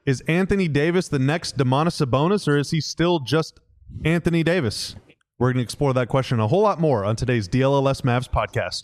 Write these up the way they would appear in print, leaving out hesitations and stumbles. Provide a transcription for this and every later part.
Is Anthony Davis the next Domantas Sabonis, or is he still just Anthony Davis? We're going to explore that question and a whole lot more on today's DLLS Mavs podcast.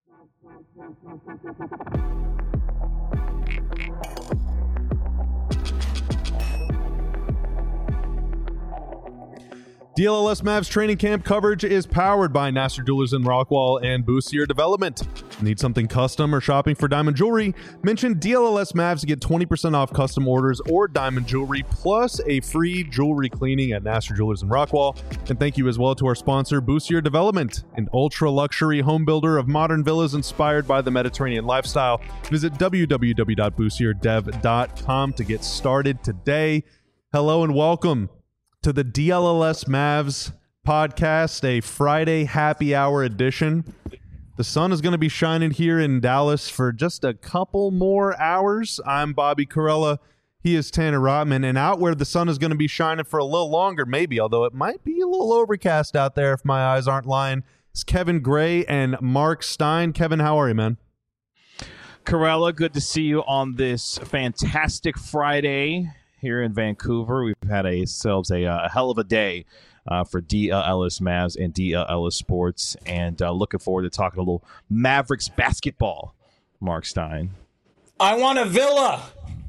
DLLS Mavs training camp coverage is powered by Nassar Jewelers in Rockwall and Boostier Development. Need something custom or shopping for diamond jewelry? Mention DLLS Mavs to get 20% off custom orders or diamond jewelry, plus a free jewelry cleaning at Nassar Jewelers in Rockwall. And thank you as well to our sponsor, Boostier Development, an ultra-luxury home builder of modern villas inspired by the Mediterranean lifestyle. Visit www.boostierdev.com to get started today. Hello and welcome to the DLLS Mavs podcast, a Friday happy hour edition. The sun is going to be shining here in Dallas for just a couple more hours. I'm Bobby Carella. He is Tanner Rotman. And out where the sun is going to be shining for a little longer, maybe, although it might be a little overcast out there if my eyes aren't lying, is Kevin Gray and Mark Stein. Kevin, how are you, man? Carella, good to see you on this fantastic Friday here in Vancouver. We've had ourselves a hell of a day for DLLS Mavs and DLLS Sports, and looking forward to talking a little Mavericks basketball. Mark Stein. I want a villa.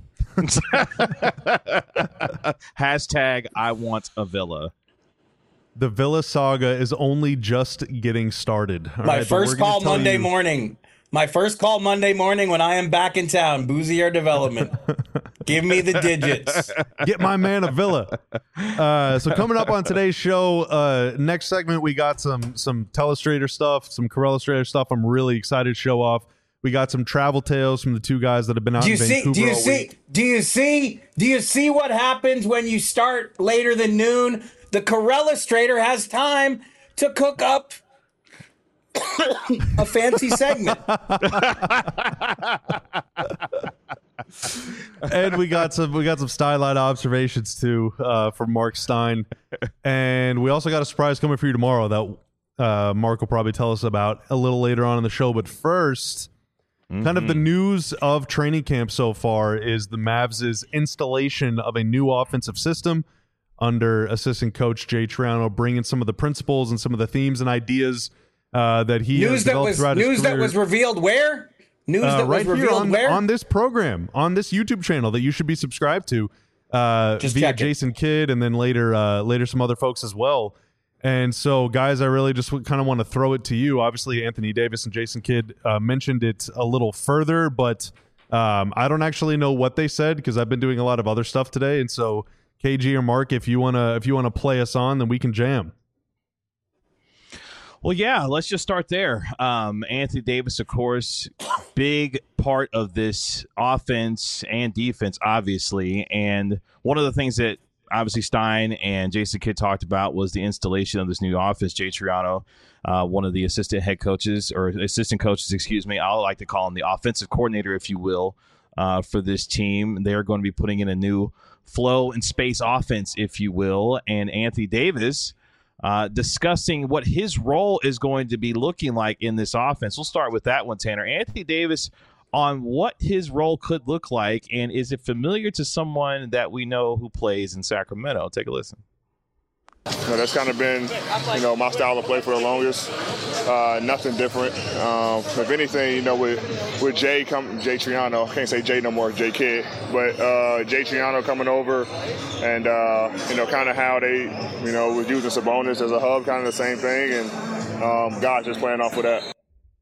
Hashtag I want a villa. The Villa saga is only just getting started. My first call Monday morning. My first call Monday morning when I am back in town. Boostier Development. Give me the digits. Get my man a villa. So coming up on today's show, next segment, we got some Telestrator stuff, some Carella stuff. I'm really excited to show off. We got some travel tales from the two guys that have been out in Vancouver all week. Do you see what happens when you start later than noon? The Carella has time to cook up a fancy segment. And we got some stylight observations too from Mark Stein, and we also got a surprise coming for you tomorrow that Mark will probably tell us about a little later on in the show. But first, kind of the news of training camp so far is the Mavs' installation of a new offensive system under assistant coach Jay Triano, bringing some of the principles and some of the themes and ideas that he has developed throughout his career. News that was revealed where? News that right was revealed here where? on this program, on this YouTube channel that you should be subscribed to via Jason Kidd, and then later some other folks as well. And so, guys, I really just kind of want to throw it to you. Obviously, Anthony Davis and Jason Kidd mentioned it a little further, but I don't actually know what they said because I've been doing a lot of other stuff today. And so, KG or Mark, if you wanna play us on, then we can jam. Well, yeah, let's just start there. Anthony Davis, of course, big part of this offense and defense, obviously. And one of the things that obviously Stein and Jason Kidd talked about was the installation of this new offense. Jay Triano, one of the assistant coaches, I like to call him the offensive coordinator, if you will, for this team. They're going to be putting in a new flow and space offense, if you will. And Anthony Davis discussing what his role is going to be looking like in this offense. We'll start with that one, Tanner. Anthony Davis, on what his role could look like, and is it familiar to someone that we know who plays in Sacramento? Take a listen. That's kind of been, my style of play for the longest. Nothing different. If anything, with Jay Triano, I can't say Jay no more, Jay Kidd, but Jay Triano coming over, and kind of how they, was using Sabonis as a hub, kind of the same thing, and guys just playing off of that.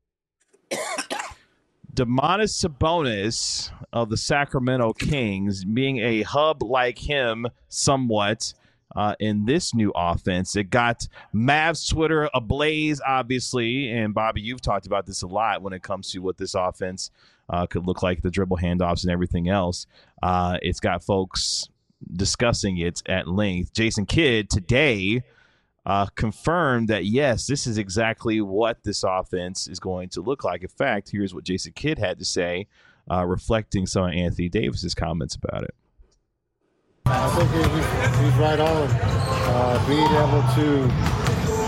Domantas Sabonis of the Sacramento Kings being a hub like him somewhat in this new offense. It got Mavs Twitter ablaze, obviously, and Bobby, you've talked about this a lot when it comes to what this offense could look like, the dribble handoffs and everything else. It's got folks discussing it at length. Jason Kidd today confirmed that, yes, this is exactly what this offense is going to look like. In fact, here's what Jason Kidd had to say, reflecting some of Anthony Davis's comments about it. I think he's right on. Being able to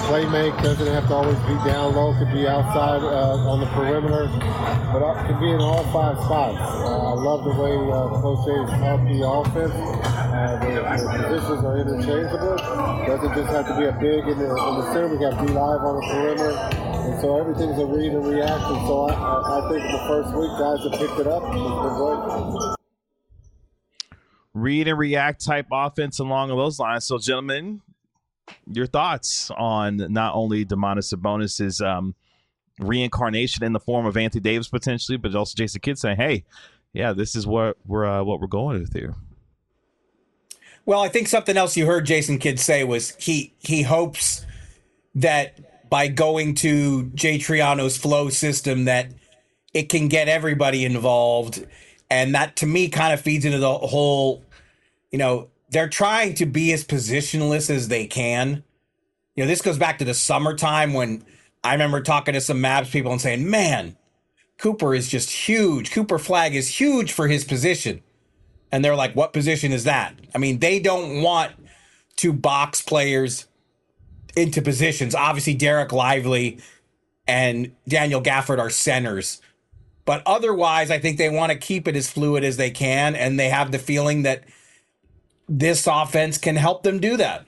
play make, doesn't have to always be down low, could be outside on the perimeter, but could be in all 5 spots. I love the way Coach J's taught the offense. The positions are interchangeable. Doesn't just have to be a big in the center. We got D-Live on the perimeter. And so everything's a read and react. And so I think the first week guys have picked it up. It's been great. Read and react type offense along those lines. So, gentlemen, your thoughts on not only Domantas Sabonis's reincarnation in the form of Anthony Davis potentially, but also Jason Kidd saying, "Hey, yeah, this is what we're going with here." Well, I think something else you heard Jason Kidd say was he hopes that by going to Jay Triano's flow system that it can get everybody involved. And that, to me, kind of feeds into the whole, they're trying to be as positionless as they can. This goes back to the summertime when I remember talking to some Mavs people and saying, man, Cooper is just huge. Cooper Flagg is huge for his position. And they're like, what position is that? I mean, they don't want to box players into positions. Obviously, Derek Lively and Daniel Gafford are centers. But otherwise, I think they want to keep it as fluid as they can, and they have the feeling that this offense can help them do that.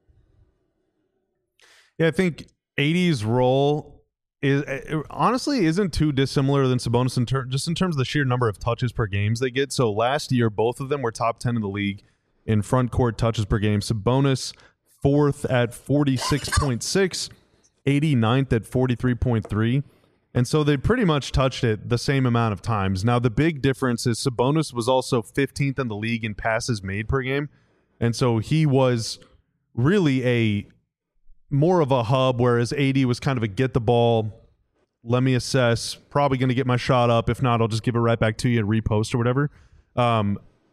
Yeah, I think AD's role honestly isn't too dissimilar than Sabonis just in terms of the sheer number of touches per games they get. So last year, both of them were top 10 in the league in front court touches per game. Sabonis 4th at 46.6, 89th at 43.3. And so they pretty much touched it the same amount of times. Now, the big difference is Sabonis was also 15th in the league in passes made per game. And so he was really more of a hub, whereas AD was kind of a get the ball, let me assess, probably going to get my shot up. If not, I'll just give it right back to you and repost or whatever. And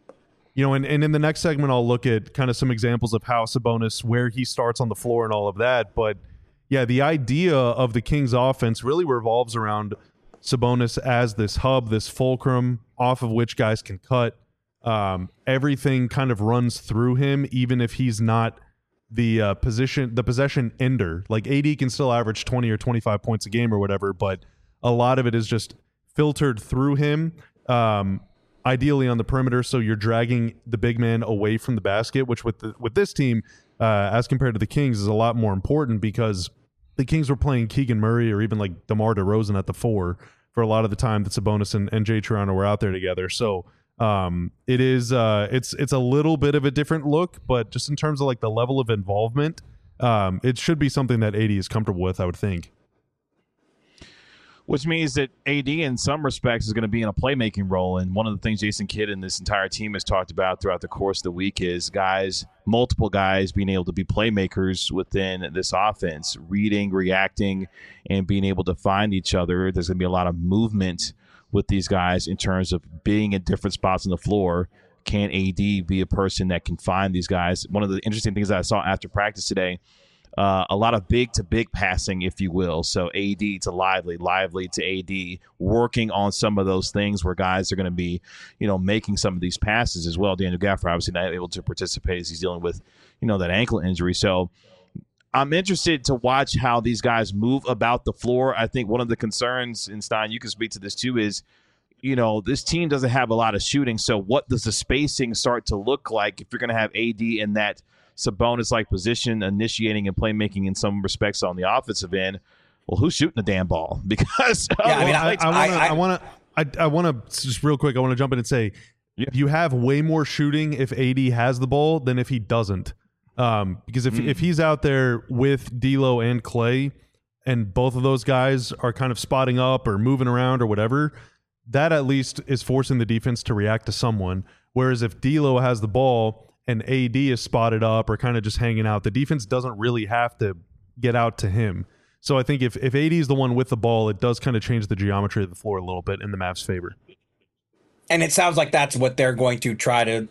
in the next segment, I'll look at kind of some examples of how Sabonis, where he starts on the floor and all of that. But yeah, the idea of the Kings offense really revolves around Sabonis as this hub, this fulcrum off of which guys can cut. Everything kind of runs through him, even if he's not the possession ender. Like AD can still average 20 or 25 points a game or whatever, but a lot of it is just filtered through him, ideally on the perimeter, so you're dragging the big man away from the basket, which with this team, as compared to the Kings, is a lot more important because the Kings were playing Keegan Murray or even like DeMar DeRozan at the 4 for a lot of the time that Sabonis and Jay Triano were out there together. So it's a little bit of a different look, but just in terms of like the level of involvement, it should be something that AD is comfortable with, I would think. Which means that AD, in some respects, is going to be in a playmaking role. And one of the things Jason Kidd and this entire team has talked about throughout the course of the week is multiple guys being able to be playmakers within this offense, reading, reacting, and being able to find each other. There's going to be a lot of movement with these guys in terms of being in different spots on the floor. Can AD be a person that can find these guys? One of the interesting things that I saw after practice today, a lot of big-to-big passing, if you will. So AD to Lively to AD, working on some of those things where guys are going to be, making some of these passes as well. Daniel Gafford obviously not able to participate as he's dealing with, that ankle injury. So I'm interested to watch how these guys move about the floor. I think one of the concerns, and Stein, you can speak to this too, is, this team doesn't have a lot of shooting. So what does the spacing start to look like if you're going to have AD in that Sabonis-like position, initiating and playmaking in some respects on the offensive end? Well, who's shooting the damn ball? Because I want to just real quick. I want to jump in and say, you have way more shooting if AD has the ball than if he doesn't. Because if he's out there with D'Lo and Clay, and both of those guys are kind of spotting up or moving around or whatever, that at least is forcing the defense to react to someone. Whereas if D'Lo has the ball and AD is spotted up or kind of just hanging out, the defense doesn't really have to get out to him. So I think if AD is the one with the ball, it does kind of change the geometry of the floor a little bit in the Mavs' favor. And it sounds like that's what they're going to try to,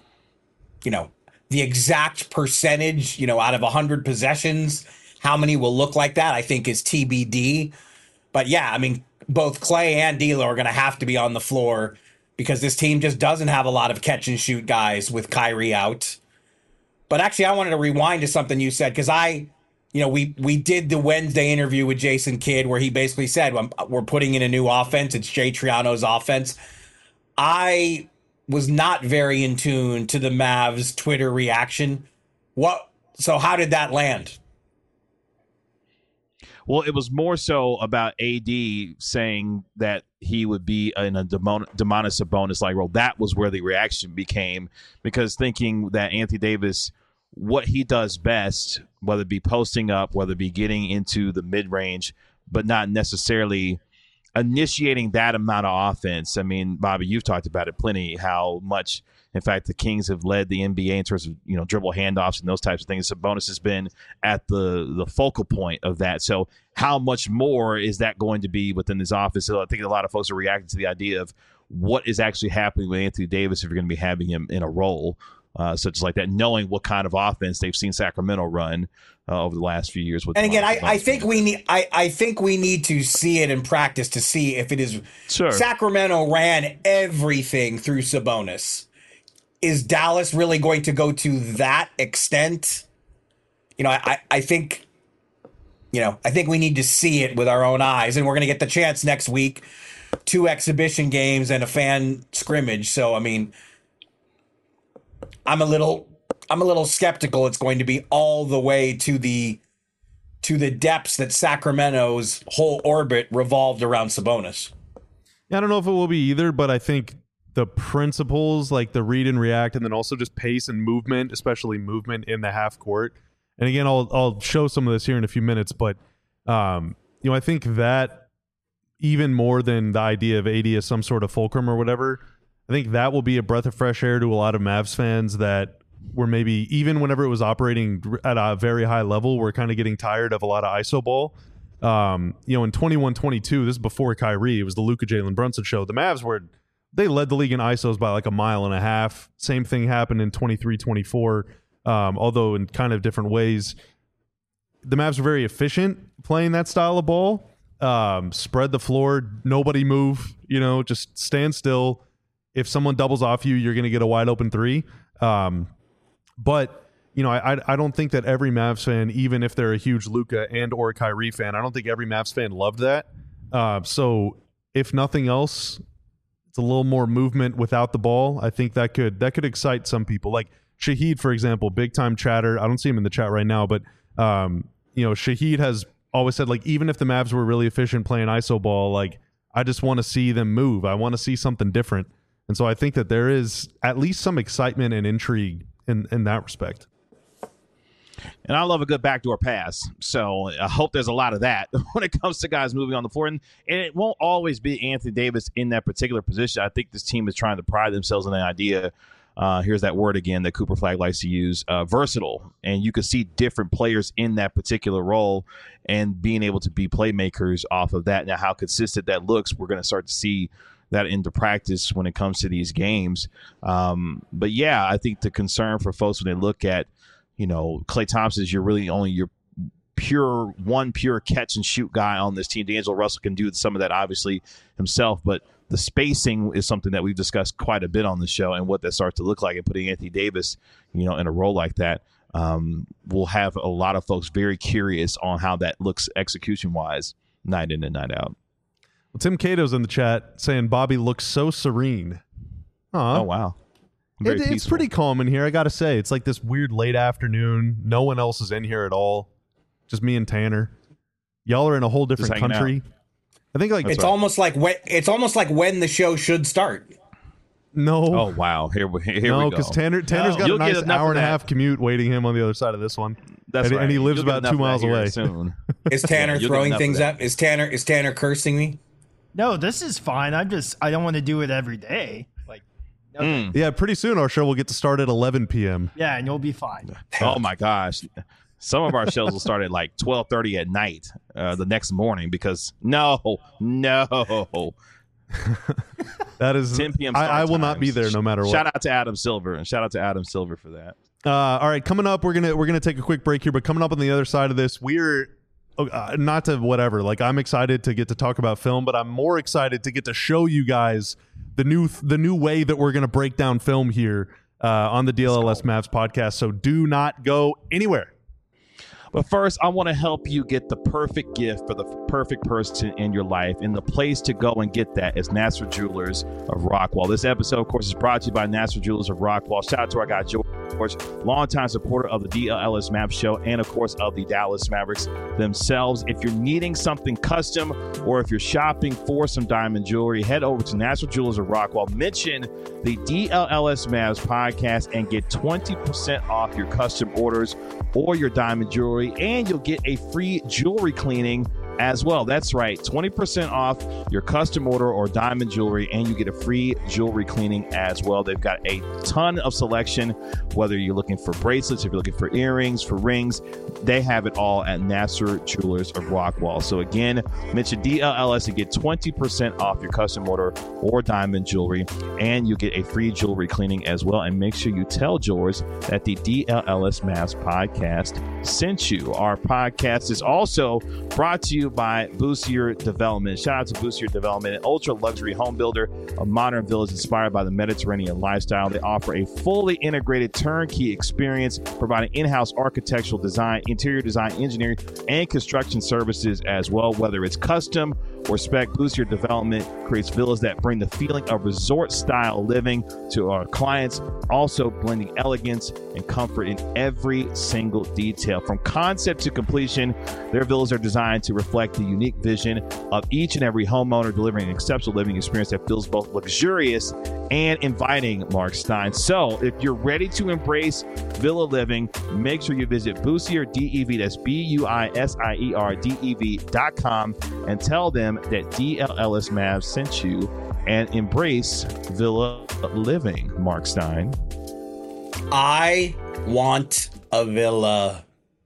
the exact percentage, out of 100 possessions, how many will look like that, I think is TBD. But yeah, I mean, both Clay and D'Lo are going to have to be on the floor because this team just doesn't have a lot of catch and shoot guys with Kyrie out. But actually, I wanted to rewind to something you said because I we did the Wednesday interview with Jason Kidd where he basically said, we're putting in a new offense. It's Jay Triano's offense. I was not very in tune to the Mavs Twitter reaction. So how did that land? Well, it was more so about AD saying that he would be in a Domantas Sabonis-like role. That was where the reaction became, because thinking that Anthony Davis, what he does best, whether it be posting up, whether it be getting into the mid-range, but not necessarily initiating that amount of offense. I mean, Bobby, you've talked about it plenty, how much, in fact, the Kings have led the NBA in terms of, dribble handoffs and those types of things. Sabonis has been at the focal point of that. So how much more is that going to be within this offense? So I think a lot of folks are reacting to the idea of what is actually happening with Anthony Davis if you're going to be having him in a role such as like that, knowing what kind of offense they've seen Sacramento run over the last few years. And again, I think we need to see it in practice to see if it is. Sure. Sacramento ran everything through Sabonis. Is Dallas really going to go to that extent? I think we need to see it with our own eyes, and we're going to get the chance next week. 2 exhibition games and a fan scrimmage. So, I mean, I'm a little skeptical it's going to be all the way to the depths that Sacramento's whole orbit revolved around Sabonis. Yeah, I don't know if it will be either, but I think the principles, like the read and react, and then also just pace and movement, especially movement in the half court. And again, I'll show some of this here in a few minutes, but I think that even more than the idea of AD as some sort of fulcrum or whatever, I think that will be a breath of fresh air to a lot of Mavs fans that were maybe, even whenever it was operating at a very high level, we're kind of getting tired of a lot of ISO ball. In 21-22, this is before Kyrie, it was the Luka Jalen Brunson show. The Mavs they led the league in ISOs by like a mile and a half. Same thing happened in 23-24, although in kind of different ways. The Mavs were very efficient playing that style of ball. Spread the floor, nobody move, just stand still. If someone doubles off you, you're going to get a wide open 3. But I don't think that every Mavs fan, even if they're a huge Luka and or Kyrie fan, I don't think every Mavs fan loved that. So if nothing else, it's a little more movement without the ball. I think that could excite some people. Like Shahid, for example, big time chatter. I don't see him in the chat right now, but Shahid has always said, like, even if the Mavs were really efficient playing ISO ball, like, I just want to see them move. I want to see something different. And so I think that there is at least some excitement and intrigue in that respect. And I love a good backdoor pass. So I hope there's a lot of that when it comes to guys moving on the floor. And it won't always be Anthony Davis in that particular position. I think this team is trying to pride themselves on the idea, here's that word again that Cooper Flagg likes to use, versatile. And you can see different players in that particular role and being able to be playmakers off of that. Now, how consistent that looks, we're going to start to see that into practice when it comes to these games. But yeah, I think the concern for folks when they look at, Klay Thompson is really only your pure catch and shoot guy on this team. D'Angelo Russell can do some of that obviously himself, but the spacing is something that we've discussed quite a bit on the show, and what that starts to look like, and putting Anthony Davis, in a role like that, will have a lot of folks very curious on how that looks execution-wise, night in and night out. Well, Tim Cato's in the chat saying Bobby looks so serene. Oh, wow. It's pretty calm in here, I got to say. It's like this weird late afternoon. No one else is in here at all. Just me and Tanner. Y'all are in a whole different country. I think it's almost like when the show should start. No. Oh wow! Here we go. No, because Tanner's got a nice hour and a half commute waiting him on the other side of this one. That's right. And he lives about 2 miles away. Soon. Is Tanner throwing things up? Is Tanner cursing me? No, this is fine. I don't want to do it every day. Yeah, pretty soon our show will get to start at 11 p.m. Yeah, and you'll be fine. Oh my gosh. Some of our shows will start at like 12:30 at night the next morning because no. That is 10 p.m. I will not be there no matter what. Shout out to Adam Silver for that. All right, coming up, we're gonna take a quick break here, but coming up on the other side of this, we're not to whatever. Like, I'm excited to get to talk about film, but I'm more excited to get to show you guys the new way that we're gonna break down film here on the DLLS Mavs podcast. So do not go anywhere. But first, I want to help you get the perfect gift for the perfect person in your life. And the place to go and get that is Nassar Jewelers of Rockwall. This episode, of course, is brought to you by Nassar Jewelers of Rockwall. Shout out to our guy, George, longtime supporter of the DLLS Mavs show and, of course, of the Dallas Mavericks themselves. If you're needing something custom or if you're shopping for some diamond jewelry, head over to Nassar Jewelers of Rockwall. Mention the DLLS Mavs podcast and get 20% off your custom orders or your diamond jewelry, and you'll get a free jewelry cleaning as well. That's right, 20% off your custom order or diamond jewelry, and you get a free jewelry cleaning as well. They've got a ton of selection, whether you're looking for bracelets, if you're looking for earrings, for rings, they have it all at Nassar Jewelers of Rockwall. So again, mention DLLS and get 20% off your custom order or diamond jewelry, and you get a free jewelry cleaning as well. And make sure you tell George that the DLLS Mavs podcast sent you. Our podcast is also brought to you by Boosier Development. Shout out to Boosier Development, an ultra luxury home builder, a modern village inspired by the Mediterranean lifestyle. They offer a fully integrated turnkey experience, providing in-house architectural design, interior design, engineering, and construction services as well. Whether it's custom or spec, Boosier Development creates villas that bring the feeling of resort-style living to our clients, also blending elegance and comfort in every single detail. From concept to completion, their villas are designed to reflect the unique vision of each and every homeowner, delivering an exceptional living experience that feels both luxurious and inviting, Mark Stein. So if you're ready to embrace villa living, make sure you visit Boosier DEV, that's BUISIERDEV.com, and tell them that DLLS Mavs sent you, and embrace villa living, Mark Stein. I want a villa.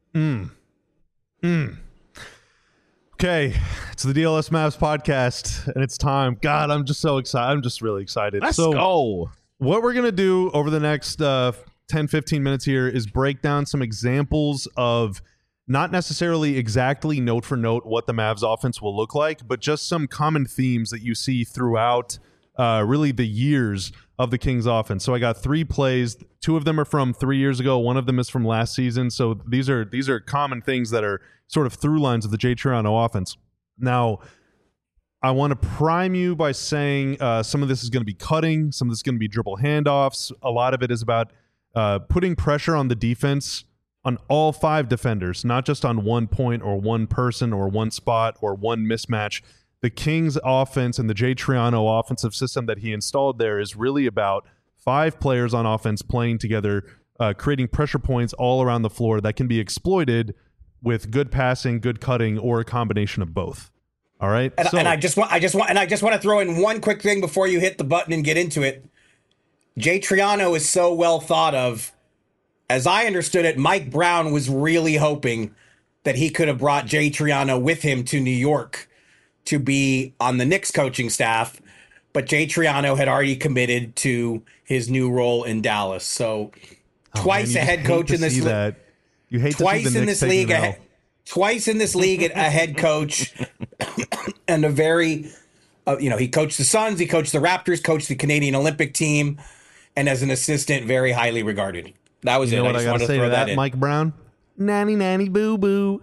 Okay, it's the DLS Mavs podcast, and it's time. God, I'm just so excited. I'm just really excited. Let's go. What we're going to do over the next 10, 15 minutes here is break down some examples of not necessarily exactly note for note what the Mavs offense will look like, but just some common themes that you see throughout really the years of the Kings offense. So I got 3 plays. 2 of them are from 3 years ago. 1 of them is from last season. So these are common things that are sort of through lines of the Jay Triano offense. Now, I want to prime you by saying some of this is going to be cutting. Some of this is going to be dribble handoffs. A lot of it is about putting pressure on the defense on all 5 defenders, not just on one point or one person or one spot or one mismatch. The Kings offense and the Jay Triano offensive system that he installed there is really about 5 players on offense playing together, creating pressure points all around the floor that can be exploited with good passing, good cutting, or a combination of both. All right. And I just want to throw in one quick thing before you hit the button and get into it. Jay Triano is so well thought of. As I understood it, Mike Brown was really hoping that he could have brought Jay Triano with him to New York to be on the Knicks coaching staff, but Jay Triano had already committed to his new role in Dallas. So twice a head coach in this league. You hate twice in this league, twice in this league, a head coach, and a very, he coached the Suns, he coached the Raptors, coached the Canadian Olympic team, and as an assistant, very highly regarded. That was it. You know what I got to say to that, Mike Brown? Nanny, nanny, boo, boo.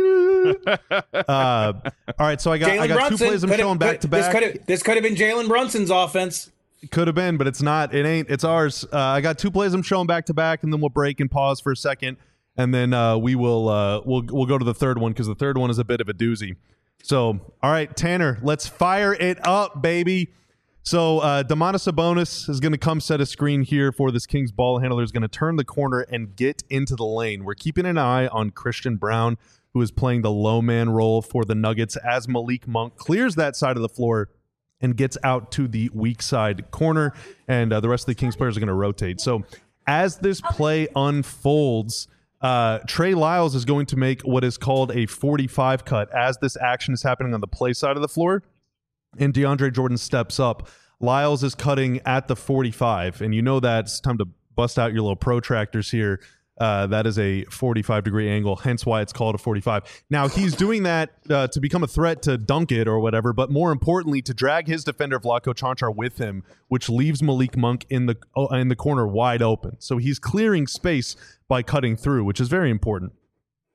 All right, so I got 2 plays I'm showing back to back. This could have been Jalen Brunson's offense. It could have been, but it's not. It ain't. It's ours. I got 2 plays I'm showing back to back, and then we'll break and pause for a second, and then we'll go to the third one because the third one is a bit of a doozy. So, all right, Tanner, let's fire it up, baby. So Domantas Sabonis is going to come set a screen here for this Kings ball handler. Is going to turn the corner and get into the lane. We're keeping an eye on Christian Brown, who is playing the low man role for the Nuggets as Malik Monk clears that side of the floor and gets out to the weak side corner, and the rest of the Kings players are going to rotate. So as this play unfolds, Trey Lyles is going to make what is called a 45 cut as this action is happening on the play side of the floor. And DeAndre Jordan steps up. Lyles is cutting at the 45, and you know that it's time to bust out your little protractors here. That is a 45-degree angle, hence why it's called a 45. Now, he's doing that to become a threat to dunk it or whatever, but more importantly, to drag his defender, Vlatko Čančar, with him, which leaves Malik Monk in the corner wide open. So he's clearing space by cutting through, which is very important.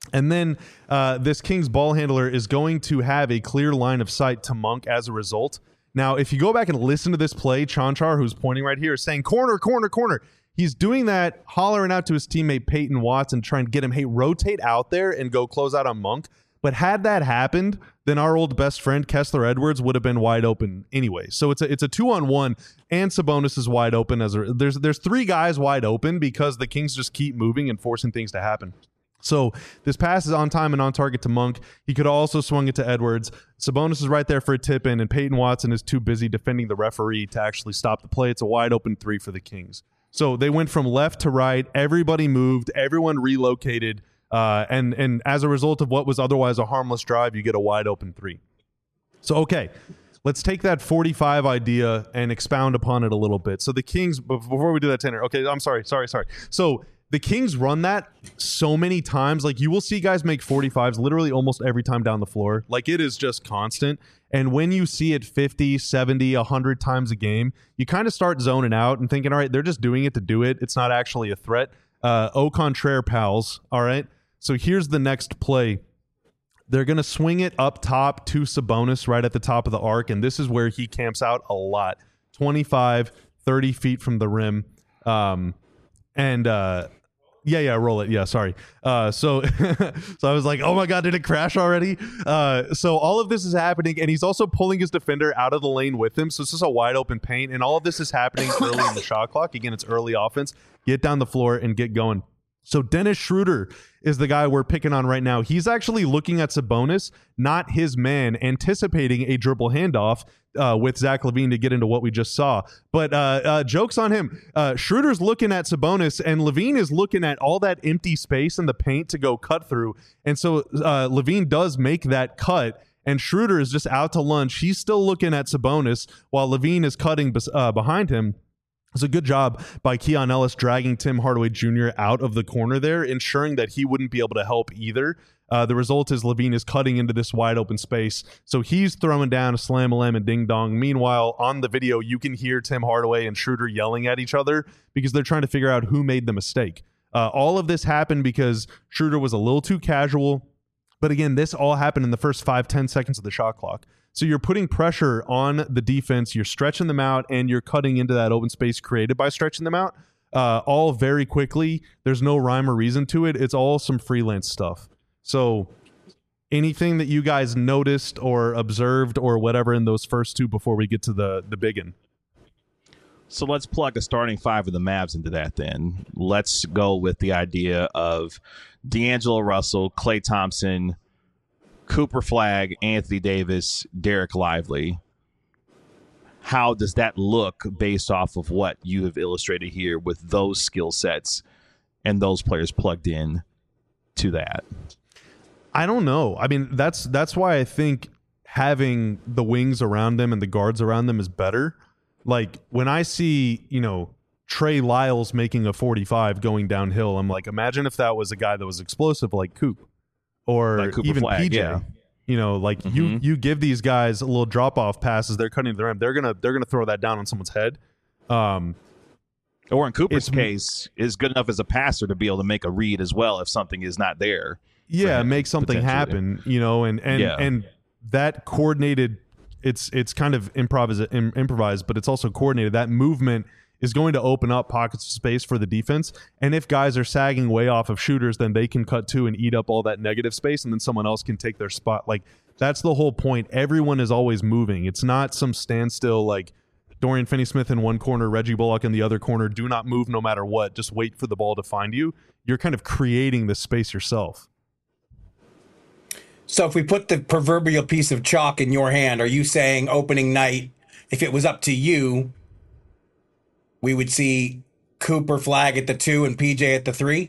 And then this Kings ball handler is going to have a clear line of sight to Monk as a result. Now, if you go back and listen to this play, Chanchar, who's pointing right here, is saying, corner, corner, corner. He's doing that, hollering out to his teammate Peyton Watson, trying to get him, hey, rotate out there and go close out on Monk. But had that happened, then our old best friend Kessler Edwards would have been wide open anyway. So it's a 2-on-1, and Sabonis is wide open. There's three guys wide open because the Kings just keep moving and forcing things to happen. So this pass is on time and on target to Monk. He could have also swung it to Edwards. Sabonis is right there for a tip in, and Peyton Watson is too busy defending the referee to actually stop the play. It's a wide open three for the Kings. So they went from left to right. Everybody moved. Everyone relocated. And as a result of what was otherwise a harmless drive, you get a wide open three. So, okay, let's take that 45 idea and expound upon it a little bit. So the Kings, before we do that, Tanner, okay, I'm sorry. So the Kings run that so many times. Like, you will see guys make 45s literally almost every time down the floor. Like, it is just constant. And when you see it 50, 70, 100 times a game, you kind of start zoning out and thinking, all right, they're just doing it to do it. It's not actually a threat. Au contraire, pals. All right. So here's the next play. They're going to swing it up top to Sabonis right at the top of the arc, and this is where he camps out a lot. 25, 30 feet from the rim. Roll it. Yeah, sorry. So I was like, oh my God, did it crash already? So all of this is happening, and he's also pulling his defender out of the lane with him. So this is a wide open paint, and all of this is happening early in the shot clock. Again, it's early offense. Get down the floor and get going. So Dennis Schroeder is the guy we're picking on right now. He's actually looking at Sabonis, not his man, anticipating a dribble handoff with Zach LaVine to get into what we just saw. But joke's on him. Schroeder's looking at Sabonis, and LaVine is looking at all that empty space in the paint to go cut through. And so LaVine does make that cut, and Schroeder is just out to lunch. He's still looking at Sabonis while LaVine is cutting behind him. It's a good job by Keon Ellis dragging Tim Hardaway Jr. out of the corner there, ensuring that he wouldn't be able to help either. The result is LaVine is cutting into this wide open space. So he's throwing down a slam-a-lam and ding-dong. Meanwhile, on the video, you can hear Tim Hardaway and Schroeder yelling at each other because they're trying to figure out who made the mistake. All of this happened because Schroeder was a little too casual. But again, this all happened in the first 5-10 seconds of the shot clock. So you're putting pressure on the defense, you're stretching them out, and you're cutting into that open space created by stretching them out all very quickly. There's no rhyme or reason to it. It's all some freelance stuff. So anything that you guys noticed or observed or whatever in those first two before we get to the big one? So let's plug a starting five of the Mavs into that then. Let's go with the idea of D'Angelo Russell, Klay Thompson, Cooper Flagg, Anthony Davis, Derek Lively. How does that look based off of what you have illustrated here with those skill sets and those players plugged in to that? I don't know. I mean, that's why I think having the wings around them and the guards around them is better. Like, when I see, Trey Lyles making a 45 going downhill, I'm like, imagine if that was a guy that was explosive like Coop. Or like even Flagg, PJ, yeah. You give these guys a little drop off passes. They're cutting the rim. They're gonna throw that down on someone's head. Or in Cooper's case, is good enough as a passer to be able to make a read as well if something is not there. Yeah, make something happen. And that coordinated. It's kind of improvised, but it's also coordinated. That movement is going to open up pockets of space for the defense. And if guys are sagging way off of shooters, then they can cut to and eat up all that negative space, and then someone else can take their spot. Like, that's the whole point. Everyone is always moving. It's not some standstill like Dorian Finney-Smith in one corner, Reggie Bullock in the other corner. Do not move no matter what. Just wait for the ball to find you. You're kind of creating this space yourself. So if we put the proverbial piece of chalk in your hand, are you saying opening night, if it was up to you, we would see Cooper Flagg at the 2 and PJ at the 3?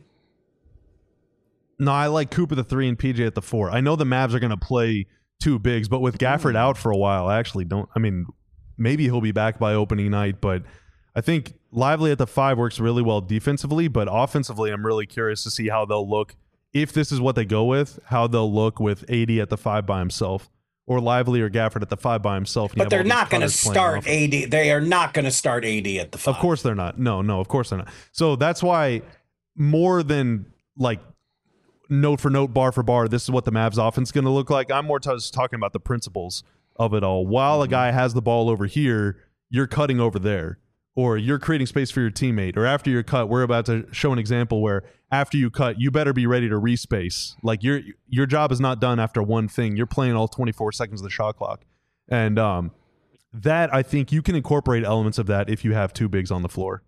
No, I like Cooper the 3 and PJ at the 4. I know the Mavs are going to play two bigs, but with Gafford out for a while, I actually don't. I mean, maybe he'll be back by opening night, but I think Lively at the 5 works really well defensively, but offensively, I'm really curious to see how they'll look. If this is what they go with, how they'll look with 80 at the 5 by himself. Or Lively or Gafford at the 5 by himself. But they're not going to start AD. They are not going to start AD at the 5. Of course they're not. No, of course they're not. So that's why more than like note for note, bar for bar, this is what the Mavs offense is going to look like. I'm more just talking about the principles of it all. While a guy has the ball over here, you're cutting over there, or you're creating space for your teammate, or after your cut, we're about to show an example where after you cut, you better be ready to respace. Like your job is not done after one thing. You're playing all 24 seconds of the shot clock. And that, I think you can incorporate elements of that if you have two bigs on the floor.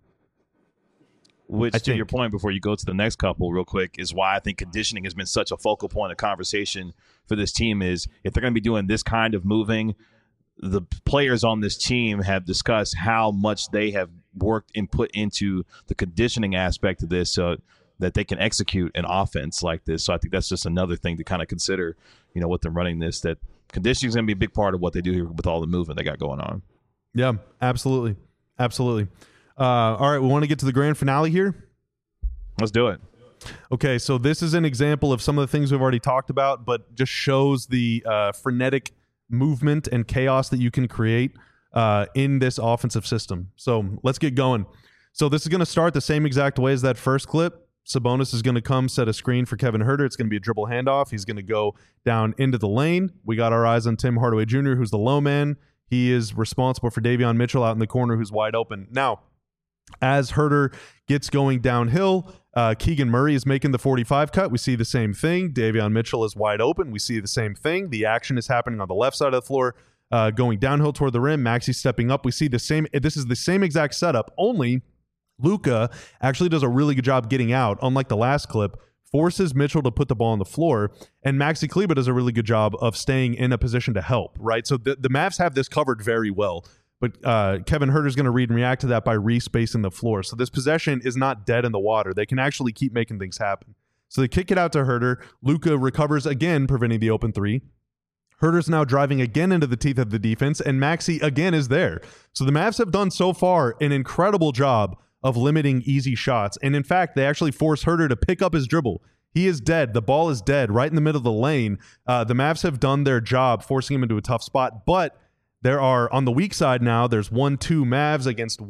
Which, to your point, before you go to the next couple real quick, is why I think conditioning has been such a focal point of conversation for this team. Is if they're going to be doing this kind of moving, the players on this team have discussed how much they have worked and put into the conditioning aspect of this so that they can execute an offense like this. So I think that's just another thing to kind of consider, with them running this, that conditioning is going to be a big part of what they do here with all the movement they got going on. Yeah, absolutely. Absolutely. All right, we want to get to the grand finale here. Let's do it. Okay, so this is an example of some of the things we've already talked about, but just shows the frenetic movement and chaos that you can create in this offensive system. So let's get going. So this is going to start the same exact way as that first clip. Sabonis is going to come set a screen for Kevin Huerter. It's going to be a dribble handoff. He's going to go down into the lane. We got our eyes on Tim Hardaway Jr., who's the low man. He is responsible for Davion Mitchell out in the corner, who's wide open. Now, as Huerter gets going downhill, Keegan Murray is making the 45 cut. We see the same thing. Davion Mitchell is wide open. We see the same thing. The action is happening on the left side of the floor, going downhill toward the rim. Maxey stepping up. We see the same. This is the same exact setup, only Luka actually does a really good job getting out, unlike the last clip, forces Mitchell to put the ball on the floor, and Maxi Kleber does a really good job of staying in a position to help, right? So the Mavs have this covered very well. But Kevin Huerter is going to read and react to that by respacing the floor. So this possession is not dead in the water. They can actually keep making things happen. So they kick it out to Huerter. Luka recovers again, preventing the open three. Huerter's now driving again into the teeth of the defense, and Maxey again is there. So the Mavs have done so far an incredible job of limiting easy shots. And in fact, they actually force Huerter to pick up his dribble. He is dead. The ball is dead right in the middle of the lane. The Mavs have done their job, forcing him into a tough spot, but there are, on the weak side now, there's 1-2 Mavs against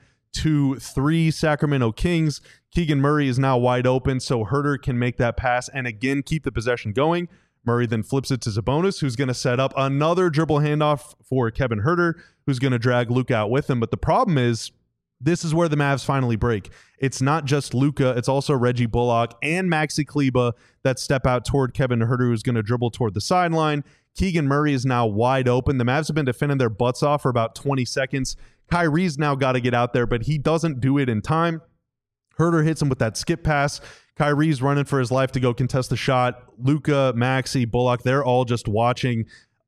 1-2-3 Sacramento Kings. Keegan Murray is now wide open, so Huerter can make that pass and again keep the possession going. Murray then flips it to Sabonis, who's going to set up another dribble handoff for Kevin Huerter, who's going to drag Luka out with him. But the problem is, this is where the Mavs finally break. It's not just Luka, it's also Reggie Bullock and Maxi Kleber that step out toward Kevin Huerter, who's going to dribble toward the sideline. Keegan Murray is now wide open. The Mavs have been defending their butts off for about 20 seconds. Kyrie's now got to get out there, but he doesn't do it in time. Huerter hits him with that skip pass. Kyrie's running for his life to go contest the shot. Luka, Maxi, Bullock, they're all just watching.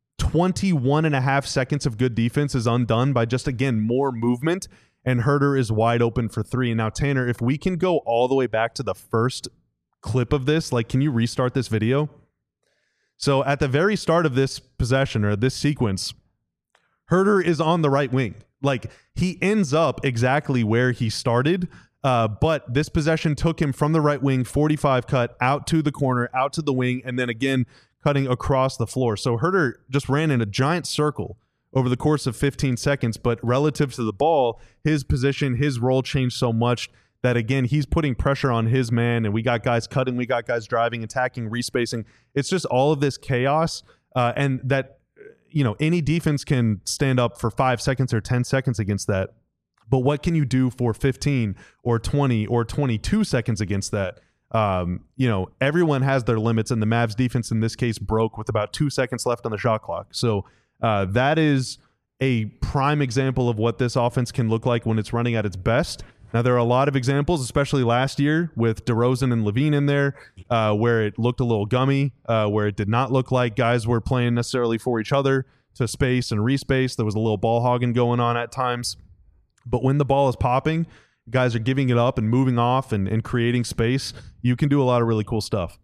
21 and a half seconds of good defense is undone by just, again, more movement, and Huerter is wide open for three. And now, Tanner, if we can go all the way back to the first clip of this, can you restart this video? So at the very start of this possession or this sequence, Huerter is on the right wing. He ends up exactly where he started, but this possession took him from the right wing, 45 cut, out to the corner, out to the wing, and then again cutting across the floor. So Huerter just ran in a giant circle over the course of 15 seconds, but relative to the ball, his position, his role changed so much that, again, he's putting pressure on his man, and we got guys cutting, we got guys driving, attacking, respacing. It's just all of this chaos, and that, any defense can stand up for 5 seconds or 10 seconds against that. But what can you do for 15 or 20 or 22 seconds against that? Everyone has their limits, and the Mavs defense in this case broke with about 2 seconds left on the shot clock. So that is a prime example of what this offense can look like when it's running at its best. Now, there are a lot of examples, especially last year with DeRozan and Levine in there, where it looked a little gummy, where it did not look like guys were playing necessarily for each other to space and respace. There was a little ball hogging going on at times. But when the ball is popping, guys are giving it up and moving off and creating space. You can do a lot of really cool stuff.